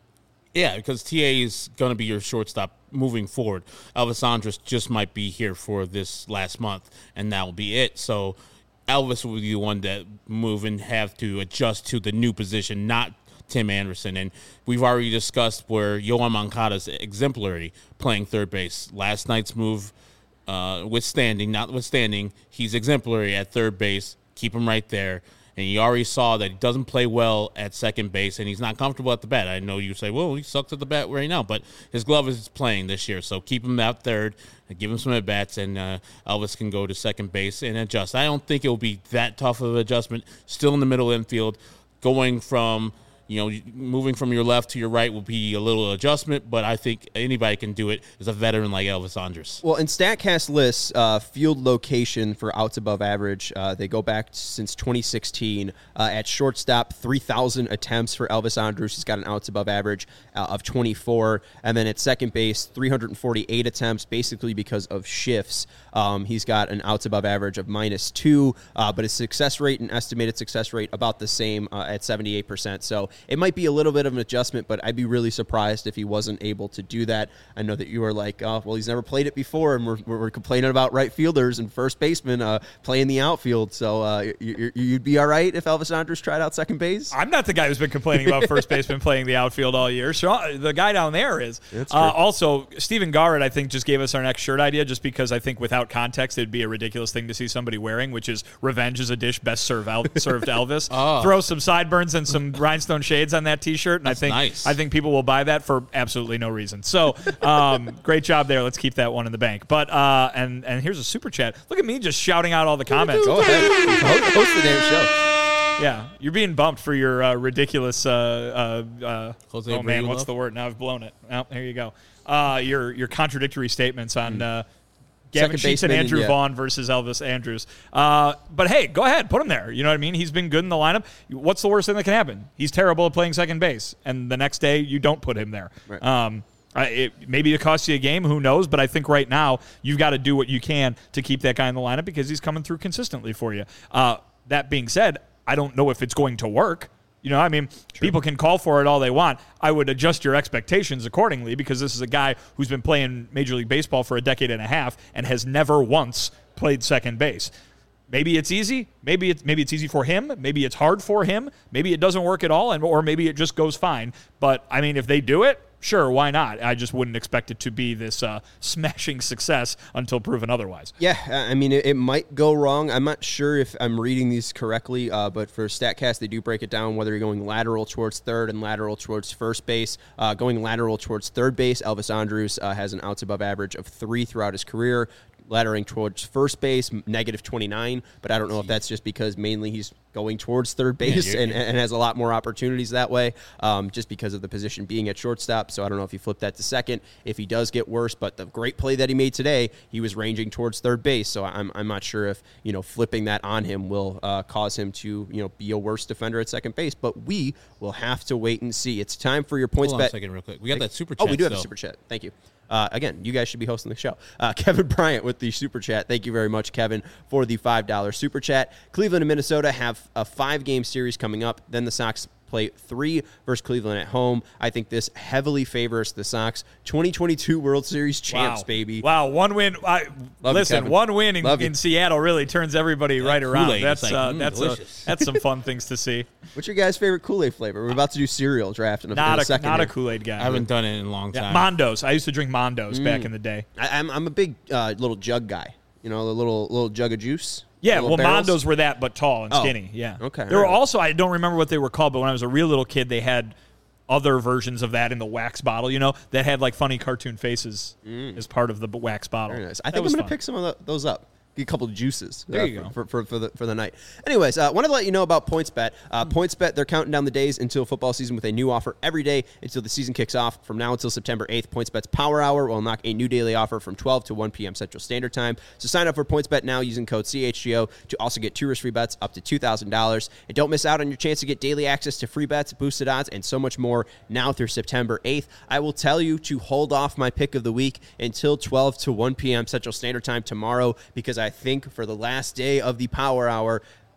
Yeah, because T A is going to be your shortstop moving forward. Elvis Andrus just might be here for this last month, and that will be it. So Elvis will be the one that move and have to adjust to the new position, not Tim Anderson. And we've already discussed where Yoan Moncada's exemplary playing third base. Last night's move, uh, withstanding, notwithstanding, he's exemplary at third base. Keep him right there. And you already saw that he doesn't play well at second base, and he's not comfortable at the bat. I know you say, well, he sucks at the bat right now, but his glove is playing this year. So keep him out third, and give him some at-bats, and uh, Elvis can go to second base and adjust. I don't think it will be that tough of an adjustment. Still in the middle infield, going from – you know, moving from your left to your right will be a little adjustment, but I think anybody can do it as a veteran like Elvis Andrus. Well, in StatCast lists, uh, field location for outs above average, uh, they go back since twenty sixteen. Uh, at shortstop, three thousand attempts for Elvis Andrus. He's got an outs above average uh, of twenty-four. And then at second base, three hundred forty-eight attempts, basically because of shifts. Um, he's got an outs above average of minus two, uh, but his success rate and estimated success rate about the same uh, at seventy-eight percent. So it might be a little bit of an adjustment, but I'd be really surprised if he wasn't able to do that. I know that you were like, oh, well, he's never played it before, and we're, we're complaining about right fielders and first basemen uh, playing the outfield. So uh, you, you'd be all right if Elvis Andrus tried out second base? I'm not the guy who's been complaining about first baseman playing the outfield all year. Sean, the guy down there is. That's true. Uh, also, Stephen Garrett, I think, just gave us our next shirt idea just because I think without context, it'd be a ridiculous thing to see somebody wearing, which is revenge is a dish best served, El- served Elvis. Oh. Throw some sideburns and some rhinestone shades on that T-shirt, and That's I think nice. I think people will buy that for absolutely no reason. So, um, great job there. Let's keep that one in the bank. But uh, and and here's a super chat. Look at me just shouting out all the comments. Go ahead. Host, host the damn show. Yeah, you're being bumped for your uh, ridiculous. Uh, uh, uh, Jose oh man, Abreu what's love? the word? Now I've blown it. Oh, there you go. Uh, your your contradictory statements on uh, Gavin Second Sheets and baseman, Andrew yeah. Vaughn versus Elvis Andrus. Uh, but hey, go ahead, put him there. You know what I mean? He's been good in the lineup. What's the worst thing that can happen? He's terrible at playing second base, and the next day you don't put him there. Right. Um, I- it, maybe it costs you a game. Who knows? But I think right now you've got to do what you can to keep that guy in the lineup because he's coming through consistently for you. Uh, that being said, I don't know if it's going to work. You know, I mean, people can call for it all they want. I would adjust your expectations accordingly because this is a guy who's been playing Major League Baseball for a decade and a half and has never once played second base. Maybe it's easy. Maybe it's maybe it's easy for him. Maybe it's hard for him. Maybe it doesn't work at all, and or maybe it just goes fine. But I mean, if they do it, sure, why not? I just wouldn't expect it to be this uh, smashing success until proven otherwise. Yeah, I mean, it, it might go wrong. I'm not sure if I'm reading these correctly, uh, but for StatCast, they do break it down whether you're going lateral towards third and lateral towards first base. Uh, going lateral towards third base, Elvis Andrus uh, has an outs above average of three throughout his career. Laddering towards first base, negative twenty-nine, but I don't know if that's just because mainly he's going towards third base Yeah, and, and has a lot more opportunities that way, um, just because of the position being at shortstop. So I don't know if you flip that to second, if he does get worse, but the great play that he made today, he was ranging towards third base. So I'm I'm not sure if, you know, flipping that on him will uh, cause him to, you know, be a worse defender at second base, but we will have to wait and see. It's time for your points Hold on bet. a second real quick. We got that super chat Oh, we do have a still. super chat. Thank you. Uh, again, you guys should be hosting the show. Uh, Kevin Bryant with the super chat. Thank you very much, Kevin, for the five dollars super chat. Cleveland and Minnesota have a five-game series coming up. Then the Sox play three versus Cleveland at home. I think this heavily favors the Sox. twenty twenty-two World Series champs, wow. baby. Wow, one win. I, Love you, listen, Kevin. one win in, Love you. in Seattle really turns everybody right around. Kool-Aid, That's it's like, uh, mm, that's a, delicious. that's some fun things to see. What's your guys' favorite Kool-Aid flavor? We're about to do cereal draft in a, in Not a a second. not a here. Kool-Aid guy. I haven't done it in a long Yeah, time. Mondos. I used to drink Mondos Mm. back in the day. I, I'm, I'm a big uh, little jug guy. You know, the little little jug of juice. Yeah, Little well, barrels. Mondos were that, but tall and Oh, skinny. Yeah. okay, There were alright. also, I don't remember what they were called, but when I was a real little kid, they had other versions of that in the wax bottle, you know, that had like funny cartoon faces as part of the b- wax bottle. Very nice. I That think I'm was going to fun. pick some of the, those up. Get a couple of juices There uh, you go. for, for, for, the, for the night. Anyways, I uh, wanted to let you know about PointsBet. Uh, PointsBet, they're counting down the days until football season with a new offer every day until the season kicks off. From now until September eighth, PointsBet's Power Hour will unlock a new daily offer from twelve to one p.m. Central Standard Time. So sign up for PointsBet now using code C H G O to also get two risk-free bets up to two thousand dollars. And don't miss out on your chance to get daily access to free bets, boosted odds, and so much more now through September eighth. I will tell you to hold off my pick of the week until twelve to one p.m. Central Standard Time tomorrow because I think for the last day of the Power Hour,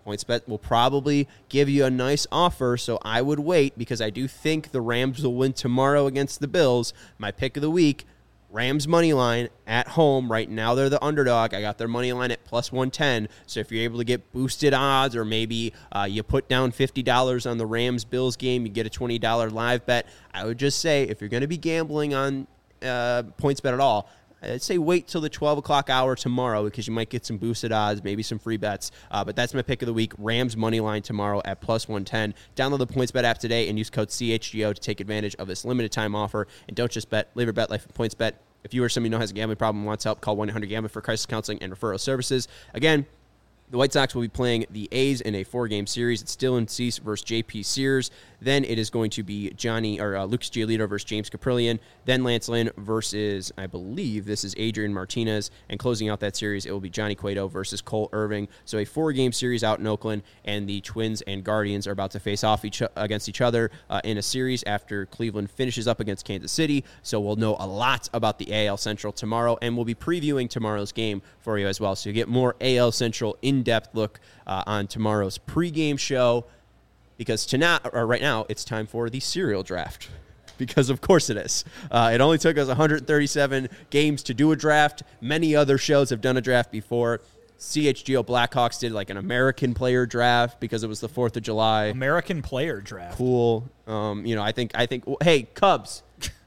PointsBet will probably give you a nice offer, so I would wait because I do think the Rams will win tomorrow against the Bills. My pick of the week, Rams money line at home. Right now they're the underdog. I got their money line at plus one ten. So if you're able to get boosted odds, or maybe uh, you put down fifty dollars on the Rams-Bills game, you get a twenty dollars live bet. I would just say if you're going to be gambling on uh, PointsBet at all, I'd say wait till the twelve o'clock hour tomorrow because you might get some boosted odds, maybe some free bets. Uh, but that's my pick of the week, Rams money line tomorrow at plus one ten. Download the PointsBet app today and use code C H G O to take advantage of this limited time offer. And don't just bet, live your bet life at PointsBet. If you or somebody you know has a gambling problem and wants help, call one eight hundred gambler for crisis counseling and referral services. Again, the White Sox will be playing the A's in a four-game series. It's Dylan Cease versus J P Sears. Then it is going to be Johnny or uh, Lucas Giolito versus James Caprillion. Then Lance Lynn versus, I believe, this is Adrian Martinez. And closing out that series, it will be Johnny Cueto versus Cole Irving. So a four-game series out in Oakland, and the Twins and Guardians are about to face off each against each other uh, in a series after Cleveland finishes up against Kansas City. So we'll know a lot about the A L Central tomorrow, and we'll be previewing tomorrow's game for you as well. So you get more A L Central in-depth look uh, on tomorrow's pregame show. Because tonight, or right now, it's time for the serial draft. Because of course it is. Uh, it only took us one hundred thirty-seven games to do a draft. Many other shows have done a draft before. C H G O Blackhawks did like an American player draft because it was the fourth of July. American player draft. Cool. Um, you know, I think I think. Hey, Cubs.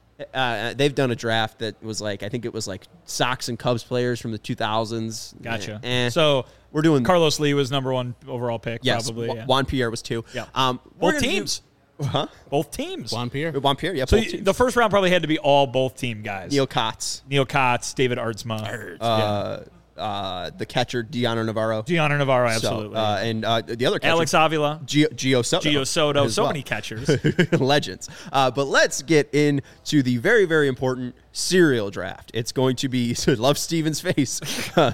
Uh, they've done a draft that was like, I think it was like Sox and Cubs players from the two thousands. Gotcha. Eh. So we're doing Carlos Lee was number one overall pick. Yes, probably. Juan, Yeah. Juan Pierre was two. Yeah. Um, we're Both gonna teams. Do, huh? Both teams. Juan Pierre. Juan Pierre. Yeah. So both y- teams. the first round probably had to be all both team guys. Neil Kotz. Neil Kotz, David Ardsma, Uh, uh, the catcher Deanna Navarro. Gianna Navarro, So, absolutely. uh, and uh, the other catcher, Alex Avila, Gio, Gio Soto. Gio Soto, as so well. many catchers. Legends. Uh, but let's get into the very, very important serial draft. It's going to be, so love Steven's face. Uh,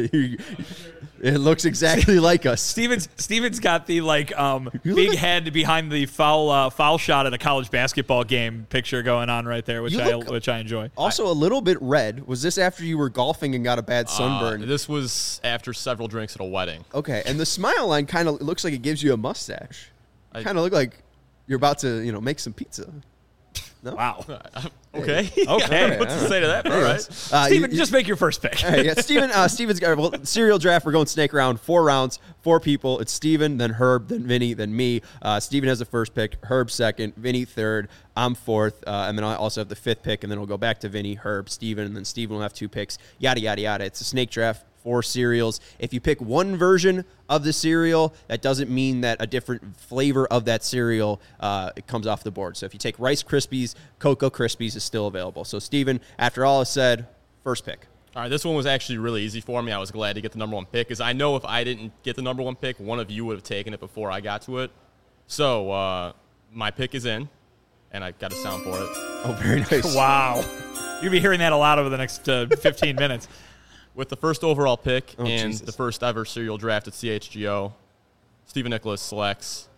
it looks exactly like us. Stevens Stevens got the like um, You big look- head behind the foul uh, foul shot at a college basketball game picture going on right there, which You I look- which I enjoy. Also, a little bit red. Was this after you were golfing and got a bad sunburn? Uh, this was after several drinks at a wedding. Okay, and the smile line kind of looks like it gives you a mustache. I- Kind of look like you're about to, you know, make some pizza. No? Wow. Okay. Okay. I don't know what to say to that, but all right. Uh, Steven, you- just make your first pick. All right, yeah, Steven, uh, Steven's got well, serial draft. We're going snake round, four rounds, four people. It's Steven, then Herb, then Vinny, then me. Uh, Steven has the first pick, Herb second, Vinny third, I'm fourth, uh, and then I also have the fifth pick, and then we'll go back to Vinny, Herb, Steven, and then Steven will have two picks, yada, yada, yada. It's a snake draft. Four cereals. If you pick one version of the cereal, that doesn't mean that a different flavor of that cereal uh, it comes off the board. So if you take Rice Krispies, Cocoa Krispies is still available. So Steven, after all is said, first pick. All right, this one was actually really easy for me. I was glad to get the number one pick because I know if I didn't get the number one pick, one of you would have taken it before I got to it. So uh, my pick is in, and I got a sound for it. Oh, very nice. Wow. You'll be hearing that a lot over the next uh, fifteen minutes. With the first overall pick Oh, and Jesus. the first ever serial draft at C H G O, Stephen Nicholas selects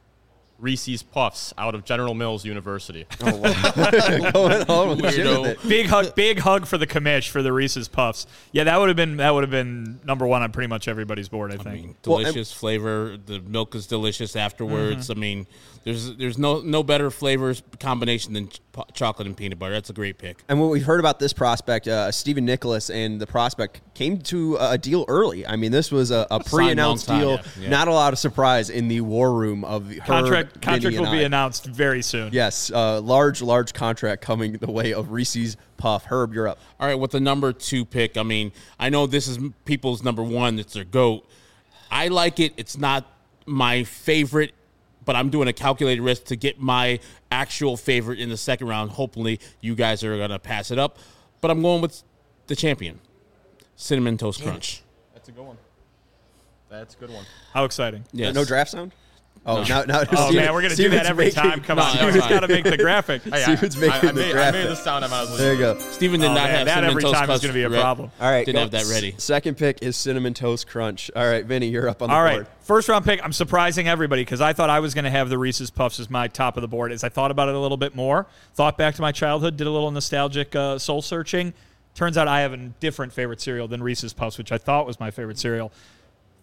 Reese's Puffs out of General Mills University. Oh, wow. Going on legit Weirdo. with it. Big hug, big hug for the commish for the Reese's Puffs. Yeah, that would have been that would have been number one on pretty much everybody's board. I I think. mean, Well, delicious flavor. The milk is delicious afterwards. Mm-hmm. I mean, there's there's no no better flavors combination than ch- chocolate and peanut butter. That's a great pick. And what we've heard about this prospect, uh, Stephen Nicholas and the prospect came to a deal early. I mean, this was a, a pre-announced long time, deal. yeah, yeah. Not a lot of surprise in the war room of Herb, Contract Vinny, contract and will be I. announced very soon. Yes, uh, large, large contract coming the way of Reese's Puff. Herb, you're up. All right, with the number two pick, I mean, I know this is people's number one. It's their GOAT. I like it. It's not my favorite, but I'm doing a calculated risk to get my actual favorite in the second round. Hopefully, you guys are going to pass it up. But I'm going with the champion, Cinnamon Toast Crunch. That's a good one. That's a good one. How exciting! Yes. No draft sound? Oh, now, now Oh Steven- man, we're gonna do Steven's that every making- time. Come No, on, that's you fine. got to make the graphic. Hey, Steven's I, making I, I the made, I graphic. made the sound. I might as well There you use go. it. Steven did Oh, not man, have that Cinnamon every Toast time is Crunch gonna be a re- problem. All right, Didn't go. have that ready. Second pick is Cinnamon Toast Crunch. All right, Vinny, you're up on the All board. right, first round pick. I'm surprising everybody because I thought I was going to have the Reese's Puffs as my top of the board. As I thought about it a little bit more, thought back to my childhood, did a little nostalgic uh, soul searching. Turns out I have a different favorite cereal than Reese's Puffs, which I thought was my favorite cereal.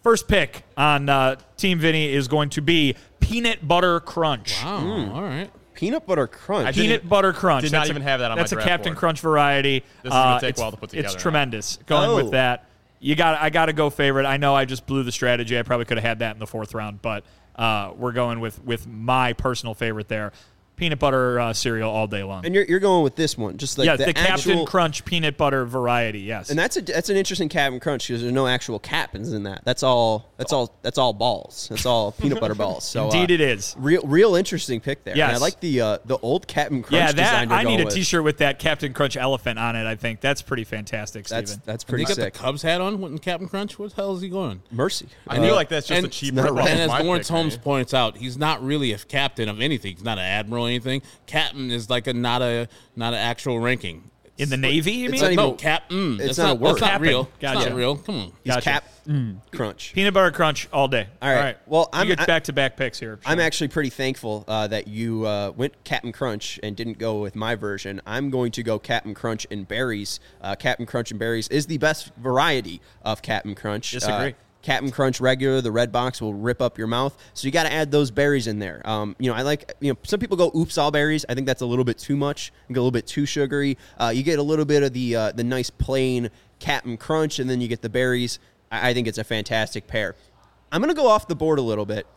First pick on uh, Team Vinny is going to be Peanut Butter Crunch. Wow. Mm. All right. Peanut Butter Crunch. I Peanut even, Butter Crunch. Did that's not even a, have that on my That's a draft Captain board. Crunch variety. This is gonna Uh, take a it's, while to put together It's now. tremendous. Going Oh. with that, you got. I got to go favorite. I know I just blew the strategy. I probably could have had that in the fourth round, but uh, we're going with with my personal favorite there. Peanut butter uh, cereal all day long. And you're, you're going with this one, just like yeah, the, the, Captain actual, Crunch peanut butter variety. Yes, and that's a that's an interesting Captain Crunch because there's no actual captains in that. That's all. That's all. That's all balls. That's all peanut butter balls. So indeed uh, it is. Real, real interesting pick there. Yes. And I like the uh, the old Captain Crunch. Yeah, design that you're I need going a with. T-shirt with that Captain Crunch elephant on it. I think that's pretty fantastic, That's Steven. that's They pretty got sick. the Cubs hat on when Captain Crunch. What the hell is he going? Mercy. I Uh, feel like that's just and a cheap not rip right. off And of as my Lawrence pick, Holmes man. points out, he's not really a captain of anything. He's not an admiral or anything. Captain is like a not a not an actual ranking. In the Navy, you it's mean? not even- No, captain. it's That's not a not, word. that's not Captain. real. It's Gotcha. not real. Come on. He's Gotcha. Cap Crunch. Peanut butter crunch all day. All right. Well, I'm- you get I- back-to-back picks here. I'm Sean. actually pretty thankful uh, that you uh, went Captain Crunch and didn't go with my version. I'm going to go Captain Crunch and berries. Uh, Captain Crunch and berries is the best variety of Captain Crunch. Disagree. Uh, Captain Crunch regular, the red box will rip up your mouth. So you got to add those berries in there. Um, you know, I like, you know, some people go oops all berries. I think that's a little bit too much. You get a little bit too sugary. Uh, you get a little bit of the uh, the nice plain Captain Crunch, and then you get the berries. I, I think it's a fantastic pair. I'm gonna go off the board a little bit.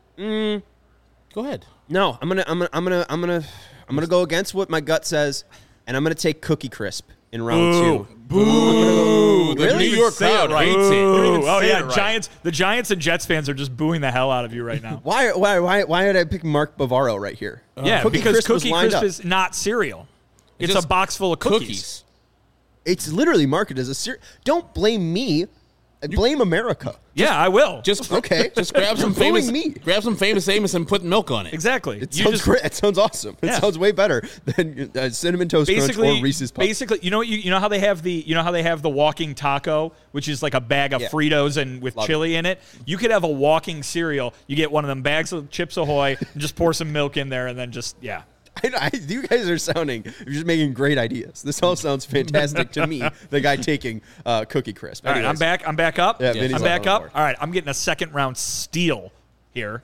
Go ahead. No, I'm gonna, I'm gonna, I'm gonna, I'm gonna, I'm gonna go against what my gut says, and I'm gonna take Cookie Crisp in round Boo. two. Boo! The Really? New York Say it crowd right. hates Ooh, it. don't even oh say yeah, it right. Giants. The Giants and Jets fans are just booing the hell out of you right now. Why, why, why, why did I pick Mark Bavaro right here? yeah, Cookie because Crisp was Cookie lined Crisp up. is not cereal. It's just a box full of cookies. Cookies. It's literally marketed as a cereal. Don't blame me. Blame America. Yeah, I will. Just Okay. Just grab some You're fooling famous. me. Grab some famous Amos and put milk on it. exactly. It You sounds just- great. It sounds awesome. It Yeah. sounds way better than uh, Cinnamon Toast Crunch Basically, or Reese's Puffs. basically, you know, you, you know how they have the, you know how they have the walking taco, which is like a bag of Yeah. Fritos and with Love chili in it. You could have a walking cereal. You get one of them bags of Chips Ahoy and just pour some milk in there, and then just yeah. I, I, you guys are sounding, you're just making great ideas. This all sounds fantastic to me, the guy taking uh, Cookie Crisp. All right, I'm Anyways. back. I'm back up. Yeah, Vinny's I'm up back on the up. board. All right, I'm getting a second round steal here,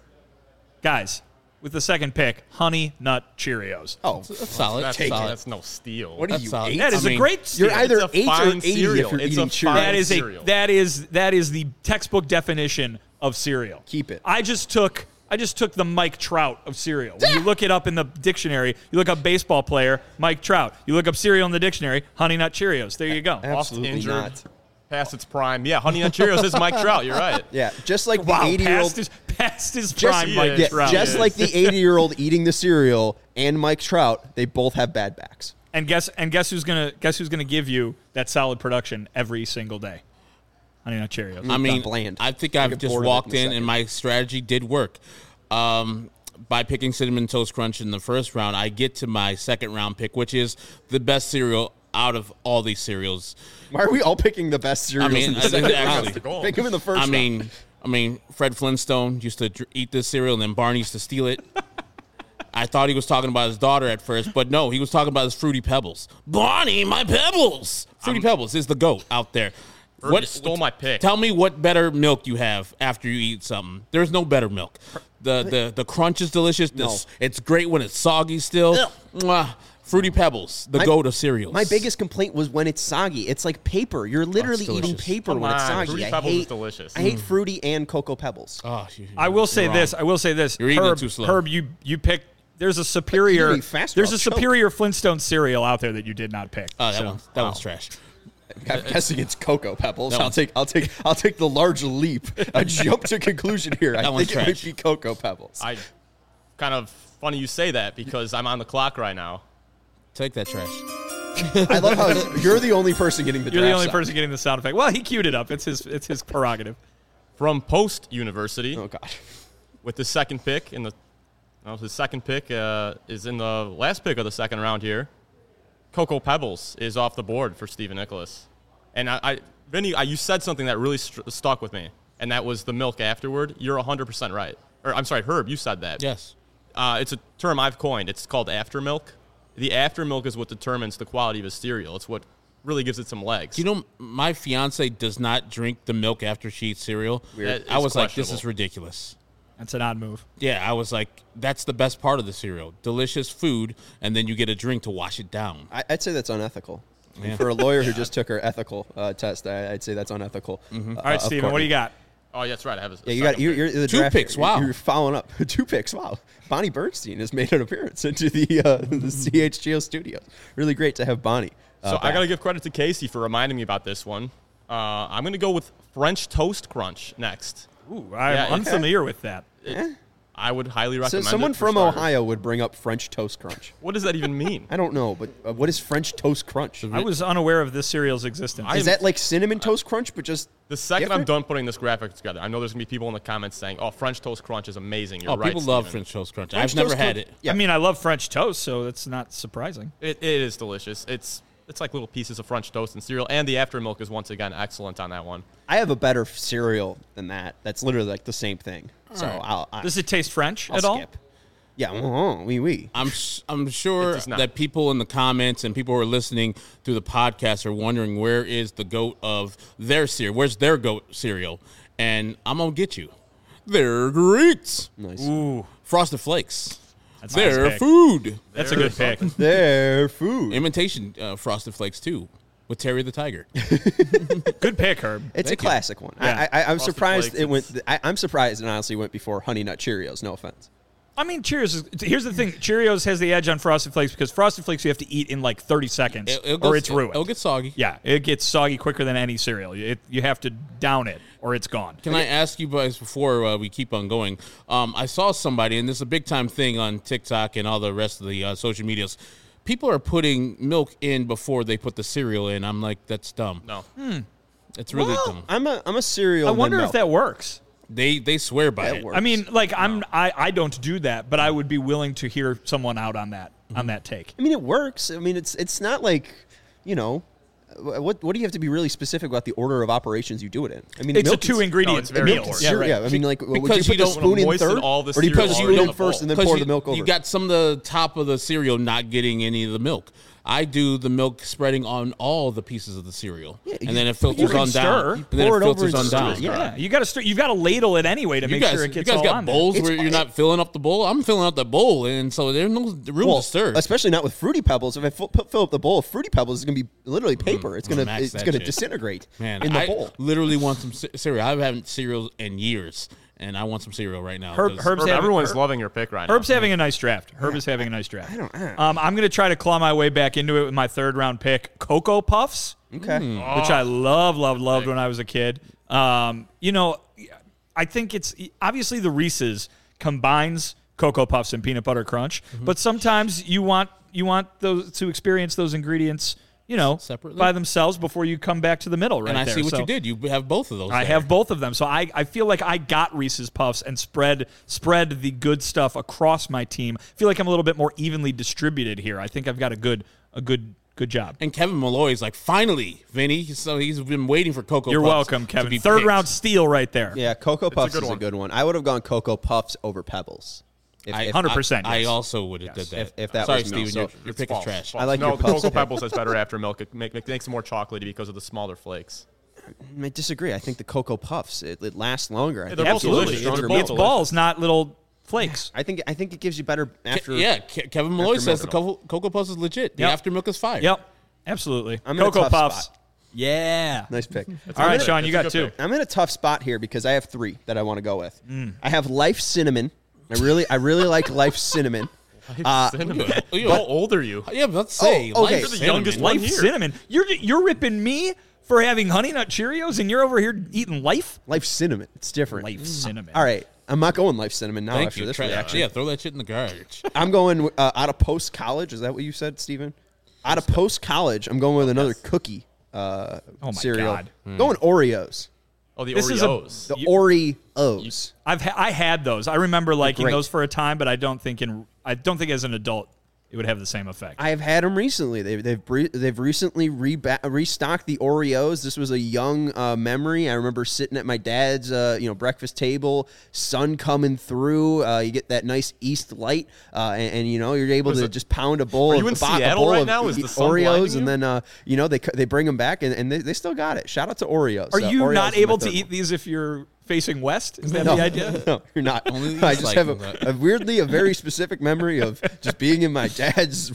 guys. With the second pick, Honey Nut Cheerios. Oh, That's solid. That's, Take solid. that's no steal. what are That's you, solid. eight? That is I a mean, great steal. You're either It's a eight or fine eighty cereal. if you're It's eating a Cheerios. fine That is a cereal. that is that is the textbook definition of cereal. Keep it. I just took I just took the Mike Trout of cereal. When you look it up in the dictionary, you look up baseball player Mike Trout. You look up cereal in the dictionary, Honey Nut Cheerios. There you go. Oft Absolutely injured, not. past its prime. Yeah, Honey Nut Cheerios is Mike Trout. You're right. Yeah, just like Wow, the eighty-year-old. past his past his Just, prime yeah, Mike yeah, Trout. just like the eighty-year-old eating the cereal and Mike Trout, they both have bad backs. And guess and guess who's gonna guess who's gonna give you that solid production every single day? Honey Nut Cheerios. I mean, bland. I think I'll I've get just bored of it walked in a in, second. and my strategy did work. Um, by picking Cinnamon Toast Crunch in the first round, I get to my second round pick, which is the best cereal out of all these cereals. Why are we all picking the best cereals I mean, in the I- second actually- round? goal. Pick them in the first I round. mean, I mean, Fred Flintstone used to dr- eat this cereal, and then Barney used to steal it. I thought he was talking about his daughter at first, but no, he was talking about his Fruity Pebbles. Barney, my Pebbles! Fruity Pebbles is the GOAT out there. Herb, you stole my pick. Tell me what better milk you have after you eat something. There's no better milk. The the the crunch is delicious. The No. s- It's great when it's soggy still. Ugh. Mwah. Fruity Pebbles, the My- GOAT of cereals. My biggest complaint was when it's soggy. It's like paper. You're literally eating delicious. paper Come when it's on, soggy. Fruity I Pebbles hate, is delicious. I hate fruity and Cocoa Pebbles. Oh, you- I will say you're this. wrong. I will say this. You're eating it Herb, too slow. Herb, you you picked. There's a superior. eating faster, There's I'll a choke. superior Flintstone cereal out there that you did not pick. Oh, that So- one's that one's trash. I'm guessing it's Cocoa Pebbles. That I'll one's- take I'll take I'll take the large leap. I jump to conclusion here. I That one's think it might trash. be Cocoa Pebbles. I kind of funny you say that because I'm on the clock right now. Take that trash. I love how you're the only person getting the You're the draft only sound. person getting the sound effect. Well, he queued it up. It's his. It's his prerogative. From Post University, Oh god. with the second pick in the, well, his second pick uh, is in the last pick of the second round here. Cocoa Pebbles is off the board for Stephen Nicholas, and I, I Vinny, I, you said something that really st- stuck with me, and that was the milk afterward. You're one hundred percent right. Or I'm sorry, Herb, you said that. Yes. Uh, it's a term I've coined. It's called after milk. The after milk is what determines the quality of a cereal. It's what really gives it some legs. You know, my fiance does not drink the milk after she eats cereal. That I is was like, this is questionable. ridiculous. That's an odd move. Yeah, I was like, that's the best part of the cereal. Delicious food, and then you get a drink to wash it down. I, I'd say that's unethical. For a lawyer who just took her ethical uh, test, I, I'd say that's unethical. Mm-hmm. Uh, All right, of Steven, what do you got? Oh, yeah, that's right. I have a, a Yeah, you got second you're, pick. you're the Two draft- picks, wow. You're following up. Two picks. Wow. Bonnie Bernstein has made an appearance into the uh, the C H G O studios. Really great to have Bonnie. Uh, So I back. got to give credit to Casey for reminding me about this one. Uh, I'm going to go with French Toast Crunch next. Ooh, I'm Yeah, okay. unfamiliar with that. I would highly So recommend someone it for from starters. Ohio would bring up French Toast Crunch. What does that even mean? I don't know, but uh, what is French Toast Crunch? I was unaware of this cereal's existence. I- Is that like cinnamon toast crunch, but just The second I'm different? done putting this graphic together, I know there's going to be people in the comments saying, oh, French Toast Crunch is amazing. You're Oh, right, people love Steven. French Toast Crunch. French I've never Toast had Crunch- it. Yeah. I mean, I love French toast, so that's not surprising. It, it is delicious. It's it's like little pieces of French toast and cereal, and the aftermilk is once again excellent on that one. I have a better cereal than that. That's literally like the same thing. So I'll, I, Does it taste French I'll at all? skip. Yeah, oh, oui, oui. I'm s- I'm sure It does not. that people in the comments and people who are listening to the podcast are wondering where is the goat of their cereal? Where's their goat cereal? And I'm gonna get you. They're great. Nice. Ooh, Frosted Flakes. that's a nice They're pick. food. That's a good pick. Their food. Imitation uh, Frosted Flakes too, with Terry the Tiger. Good pick, Herb. It's Thank a you. classic one. Yeah. I, I, I'm Frosted surprised Flakes, it went. it's- I, I'm surprised it honestly went before Honey Nut Cheerios. No offense. I mean, Cheerios. Is, here's the thing: Cheerios has the edge on Frosted Flakes because Frosted Flakes you have to eat in like thirty seconds, It- it'll go- or it's ruined. It'll get soggy. yeah, it gets soggy quicker than any cereal. It, you have to down it, or it's gone. Can I ask you guys before uh, we keep on going? Um, I saw somebody, and this is a big time thing on TikTok and all the rest of the uh, social medias. People are putting milk in before they put the cereal in. I'm like, that's dumb. No. It's really Well, dumb. I'm a I'm a cereal. I then wonder if milk. that works. They they swear by That it. works. I mean, like I'm, I, I don't do that, but I would be willing to hear someone out on that, on that take. I mean, it works. I mean, it's it's not like, you know, what what do you have to be really specific about the order of operations you do it in? I mean, It's a milk is- two ingredient no, it's very meal. important. Yeah, Yeah, right. yeah, I mean, like, would because you you put the don't spoon in moisten third, all the or do you put the cereal spoon already in in the first bowl? and then 'Cause pour you, the milk over? you got some of the top of the cereal not getting any of the milk. I do the milk spreading on all the pieces of the cereal, you- and then it you filters can on stir. down. You And then pour it it over filters and on stir down. it. Yeah. Yeah, you got to st- you've got to ladle it anyway to You make guys, sure it you gets guys all got on there. bowls It's- where you're not filling up the bowl. I'm filling up the bowl, and so there's no room well, to stir. especially not with Fruity Pebbles. If I fill, put- fill up the bowl of Fruity Pebbles, it's going to be literally paper. It's going to max it's that going to shit. disintegrate Man, in the I bowl. literally want some ce- cereal. I haven't had cereal in years, and I want some cereal right now. Herb- 'cause- Herb's Herb, having- everyone's Herb- loving your pick right Herb's now. having a nice draft. Herb is having a nice draft. I don't- I don't- Um, I'm going to try to claw my way back into it with my third round pick, Cocoa Puffs, Okay. which I love, loved, loved when I was a kid. Um, you know, I think it's obviously the Reese's combines Cocoa Puffs and peanut butter crunch, but sometimes you want you want those to experience those ingredients, you know, Separately? by themselves before you come back to the middle. Right and I there. see what So- you did. You have both of those. I there. have both of them, so I, I feel like I got Reese's Puffs and spread spread the good stuff across my team. I feel like I'm a little bit more evenly distributed here. I think I've got a good a good good job. And Kevin Malloy's like, finally, Vinny. So he's been waiting for Cocoa You're Puffs welcome, to Kevin. be Third picked. round steal right there. Yeah, Cocoa Puffs good is a one. good one. I would have gone Cocoa Puffs over Pebbles. If, I, if- one hundred percent, I, I yes. also would have did that. If- if that Sorry, was me. Steven, So your, your It's pick false, is trash. false. I like no, your the Puffs. Cocoa Pebbles has better after milk. It make, make, makes it more chocolatey because of the smaller flakes. I disagree. I think the Cocoa Puffs it, it lasts longer. I Yeah, think they're it's both a little delicious. stronger They're milk. It's both balls, not little flakes. I think I think it gives you better after. yeah, Ke- Kevin Malloy after says the milk. Cocoa, Cocoa Puffs is legit. The Yep. after milk is fire. Yep, absolutely. I'm in a Cocoa tough Puffs. spot. Yeah. Nice pick. All right, good Sean, pick. you It's a got good two. pick. I'm in a tough spot here because I have three that I want to go with. Mm. I have Life Cinnamon. I really I really like Life Cinnamon. Uh, Cinnamon. Oh, you- How old are you? Yeah, but let's say Oh, okay. life You're the cinnamon. youngest one. Life here. cinnamon. You're you're ripping me for having Honey Nut Cheerios, and you're over here eating Life. Life Cinnamon. It's different. Life cinnamon. All right. I'm not going Life Cinnamon now Thank after you. this Tra- reaction. yeah, throw that shit in the garbage. I'm going uh, out of post college. Is that what you said, Steven? Out of post college, I'm going with another cookie uh, Oh my cereal. God. Going Oreos. Oh, the This is a- Oreos. The Oreos. I've ha- I had those. I remember liking great. those for a time, but I don't think in I don't think as an adult it would have the same effect. I've had them recently. They've they've bre- they've recently reba- restocked the Oreos. This was a young uh, memory. I remember sitting at my dad's uh, you know breakfast table, sun coming through. Uh, you get that nice east light, uh, and, and you know you're able to it? just pound a bowl Are of you in a bo- a Seattle bowl right of now? Is e- the sun blinding Oreos, you? and then uh, you know they c- they bring them back, and, and they, they still got it. Shout out to Oreos. Are Uh, you Oreos not is my able to third eat one. these if you're facing west? Is that No, the idea? no, you're not. Only the I east just like have a, that. a weirdly a very specific memory of just being in my dad's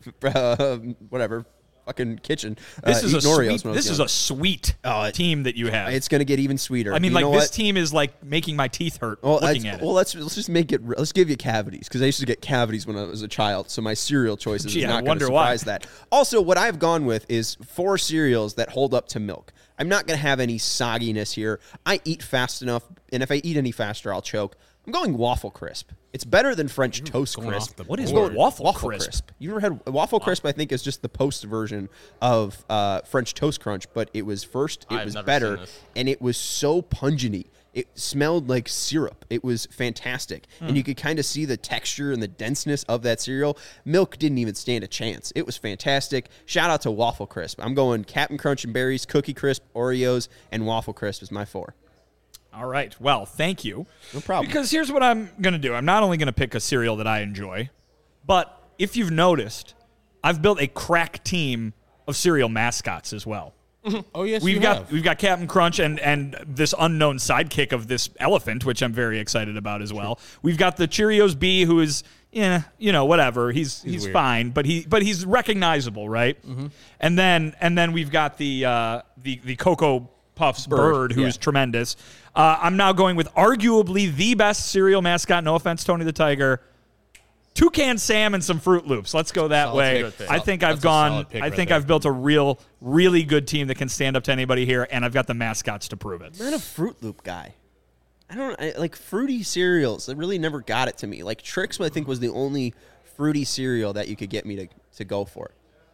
uh, whatever fucking kitchen. This uh, is a eating Oreos sweet. when I was This is young. a sweet Oh, it- team that you have. It's gonna get even sweeter. I mean, You like know this what? team is like making my teeth hurt Well, looking let's- at it. well, let's let's just make it. re- Let's give you cavities because I used to get cavities when I was a child. So my cereal choices Gee, is I not going to wonder why. surprise that. Also, what I've gone with is four cereals that hold up to milk. I'm not going to have any sogginess here. I eat fast enough, and if I eat any faster, I'll choke. I'm going Waffle Crisp. It's better than French Toast going Crisp. off the What is board. Waffle Waffle Crisp? Crisp. You ever had Waffle Crisp? I think is just the post version of uh, French Toast Crunch, but it was first. It I've was never better, seen this. and it was so pungenty. It smelled like syrup. It was fantastic, and you could kind of see the texture and the denseness of that cereal. Milk didn't even stand a chance. It was fantastic. Shout out to Waffle Crisp. I'm going Captain Crunch and Berries, Cookie Crisp, Oreos, and Waffle Crisp is my four. All right. Well, thank you. No problem. Because here's what I'm going to do. I'm not only going to pick a cereal that I enjoy, but if you've noticed, I've built a crack team of cereal mascots as well. Oh yes, We've you got have. we've got Captain Crunch and and this unknown sidekick of this elephant, which I'm very excited about as well. We've got the Cheerios bee, who is yeah, you know, whatever. He's he's, weird. fine, but he but he's recognizable, right? Mm-hmm. And then and then we've got the uh, the the Cocoa Puffs bird, Bird, who's yeah. tremendous. Uh, I'm now going with arguably the best cereal mascot. No offense, Tony the Tiger. Toucan Sam and some Fruit Loops. Let's go that Solid way. pick. I think I've That's a gone. solid pick I right think there. I've built a real, really good team that can stand up to anybody here, and I've got the mascots to prove it. I'm not a Fruit Loop guy. I don't I, like fruity cereals. It really never got it to me. Like Trix, I think was the only fruity cereal that you could get me to, to go for.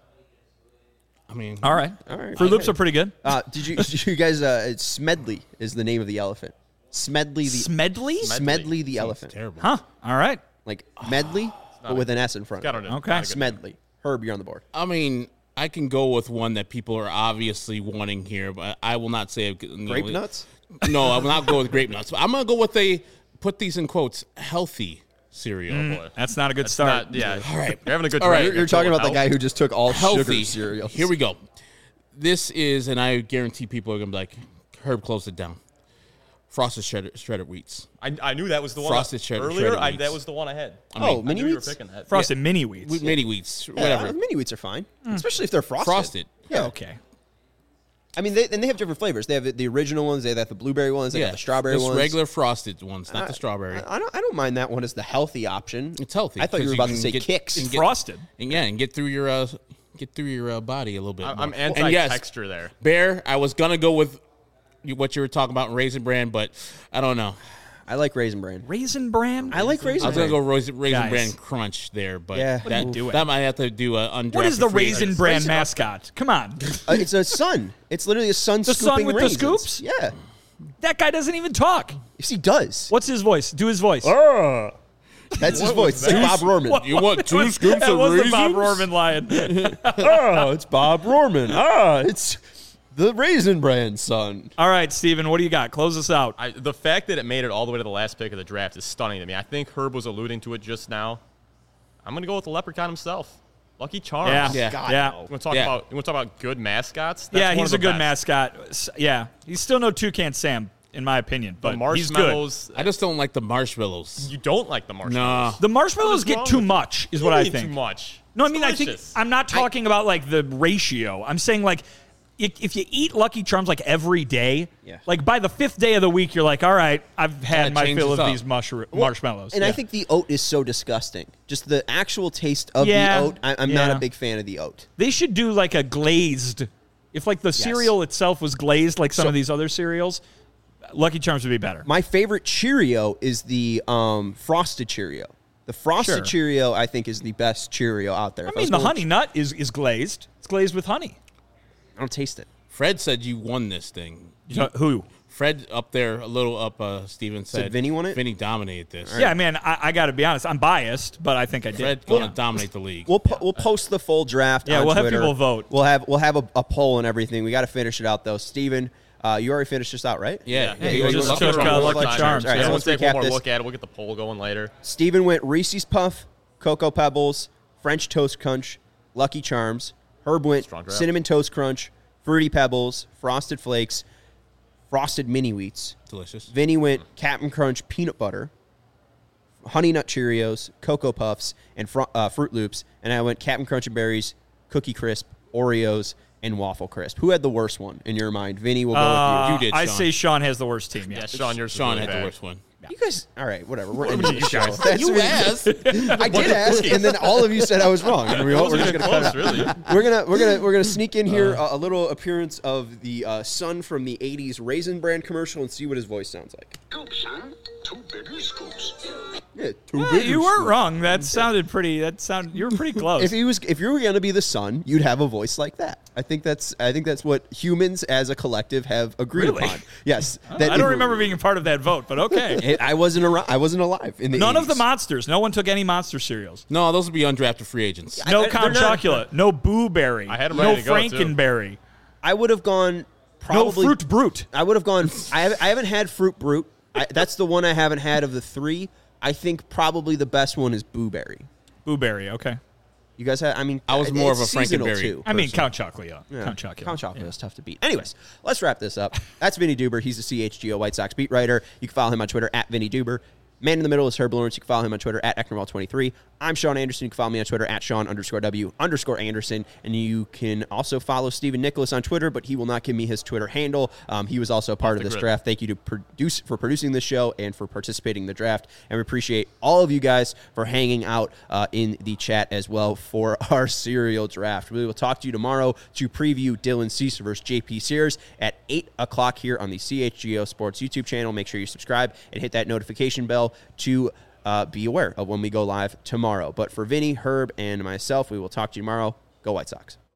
I mean, All right, All right. Fruit Loops Okay. are pretty good. Uh, did you did you guys? Uh, it's Smedley is the name of the elephant. Smedley the Smedley? Smedley the elephant. terrible. Huh. All right. Like Medley, but with an S in front. Got of it. it. Okay. Not a good- Smedley. Herb, you're on the board. I mean, I can go with one that people are obviously wanting here, but I will not say you know, Grape nuts. No, I will not go with grape nuts. I'm gonna go with a put these in quotes healthy cereal. Mm. Boy. That's not a good It's start. not, yeah. All right. You're having a good All right. drink. You're, you're talking about the guy who just took all Healthy sugar cereals. Here we go. This is, and I guarantee people are gonna be like, Herb, close it down. Frosted shredded, shredded wheats. I, I knew that was the one. Frosted cheddar- Earlier, shredded I, wheats. that was the one I had. I Oh, mean, mini I knew you were wheats. picking that. Frosted mini wheats. mini wheats, Yeah, whatever. mini wheats are fine, especially if they're frosted. Frosted. Yeah. Okay. I mean, they, and they have different flavors. They have the, the original ones. They have the blueberry ones. They Yeah, have the strawberry just ones. regular frosted ones, not I- the strawberry. I, I don't. I don't mind that one as the healthy option. It's healthy. I thought you 'cause were about to can say get- kicks. and get- Frosted. And yeah, and get through your uh, get through your uh, body a little bit. I, more. I'm And yes, anti-texture there. Bear, I was gonna go with you- what you were talking about in Raisin Bran, but I don't know. I like Raisin Bran. Raisin Bran? I like I Raisin was gonna Bran. go Raisin, raisin Guys. Bran Crunch there, but Yeah. What are you that, doing? that might have to do a undrafted What is the free Raisin agent. Bran Raisin- mascot? Come on. Uh, it's a sun. It's literally a sun The sun scooping with the raisins. scoops? Yeah. That guy doesn't even talk. Yes, he does. What's his voice? Do his voice. That's his voice. It's like Bob Rorman. What- You want two that was- scoops that of was the Bob raisins? Rorman lion. Oh, it's Bob Rorman. Ah, it's the Raisin Bran son. All right, Steven, what do you got? Close us out. I, the fact that it made it all the way to the last pick of the draft is stunning to me. I think Herb was alluding to it just now. I'm going to go with the leprechaun himself. Lucky Charms. Yeah. Yeah. God, Yeah. no. You want to talk Yeah. about you want to talk about good mascots? That's Yeah, one he's of a the good best. mascot. S- Yeah, he's still no Toucan Sam, in my opinion, The but he's good. marshmallows. I just don't like the marshmallows. You don't like the marshmallows. Nah. The marshmallows What is get wrong too with you? much, is What what do I you mean think. Too much. No, I It's mean, I think delicious. I'm not talking about like the ratio. I'm saying like if, if you eat Lucky Charms like every day, Yeah. like by the fifth day of the week, you're like, all right, I've had Kinda my changes fill of up. these mushroom marshmallows. And I Yeah. think the oat is so disgusting. Just the actual taste of Yeah, the oat. I, I'm not yeah. a big fan of the oat. they should do like a glazed. If like the cereal itself was glazed, like some So- of these other cereals, Lucky Charms would be better. My favorite Cheerio is the um, Frosted Cheerio. The Frosted Sure. Cheerio, I think, is the best Cheerio out there. I If mean, was the going- honey nut is is glazed. It's glazed with honey. I don't taste it. Fred said you won this thing. Uh, who? Fred up there, a little up, uh, Steven said. Said Vinny won it? Vinny dominated this. Yeah, man, I, I got to be honest. I'm biased, but I think I did. Fred Well, going to dominate the league. We'll po- we'll post the full draft. Yeah, on we'll have Twitter. people vote. We'll have we'll have a, a poll and everything. We got to finish it out though. Steven, uh, you already finished this out, right? Yeah. Yeah, he you was just lucky took, charm. uh, One Lucky time. Charms, All right, yeah. so Everyone let's take recap one more this. look at it. We'll get the poll going later. Steven went Reese's Puff, Cocoa Pebbles, French Toast Crunch, Lucky Charms. Herb went Strong draft. Cinnamon Toast Crunch, Fruity Pebbles, Frosted Flakes, Frosted Mini Wheats. Delicious. Vinny went Captain Crunch Peanut Butter, Honey Nut Cheerios, Cocoa Puffs, and fr- uh, Fruit Loops. And I went Captain Crunch and Berries, Cookie Crisp, Oreos, and Waffle Crisp. Who had the worst one in your mind? Vinny, we'll go Uh, You did, I Sean. say Sean has the worst team. Yeah. Yeah, Sean, yours Sean was really had bad. the worst one. with you. You guys, all right, whatever. We're ending the show. guys- That's You really- asked. I did ask, and then all of you said I was wrong. And we all, we're just gonna cut Close, it out. really. We're gonna we're gonna we're gonna sneak in here a, a little appearance of the uh, son from the eighties Raisin Brand commercial and see what his voice sounds like. Scoop, son. Two bigger scoops. Yeah, two Well, bigger you weren't scoops. wrong. That sounded pretty. That sound. You were pretty close. If he was, if you were gonna be the son, you'd have a voice like that. I think that's I think that's what humans as a collective have agreed Really? upon. Yes, I that don't it- remember being a part of that vote, but okay. It, I wasn't ar- I wasn't alive in the None of the eighties. monsters. No one took any monster cereals. No, those would be undrafted free agents. No I- Count they're not- Chocula. No Boo Berry. I had 'em no ready to go, too. Frankenberry. I would have gone probably No Fruit Brute. I would have gone. I, have, I haven't had Fruit Brute. I, that's the one I haven't had of the three. I think probably the best one is Boo Berry. Boo Berry. Okay. You guys had. I mean, I was it- more it's of a seasonal, Frankenberry. too. I mean Count Chocula. Yeah. Count Chocula. Count Chocula Yeah. is tough to beat. Anyways, let's wrap this up. That's Vinny Duber. He's the C H G O White Sox beat writer. You can follow him on Twitter at Vinny Duber. Man in the middle is Herb Lawrence. You can follow him on Twitter at Ecknerwall twenty-three. I'm Sean Anderson. You can follow me on Twitter at Sean underscore W underscore Anderson. And you can also follow Stephen Nicholas on Twitter, but he will not give me his Twitter handle. Um, he was also a part of the this grid. draft. Thank you to produce for producing this show and for participating in the draft. And we appreciate all of you guys for hanging out uh, in the chat as well for our serial draft. We will talk to you tomorrow to preview Dylan Cease versus J P Sears at eight o'clock here on the C H G O Sports YouTube channel. Make sure you subscribe and hit that notification bell to uh, be aware of when we go live tomorrow. But for Vinny, Herb, and myself, we will talk to you tomorrow. Go White Sox.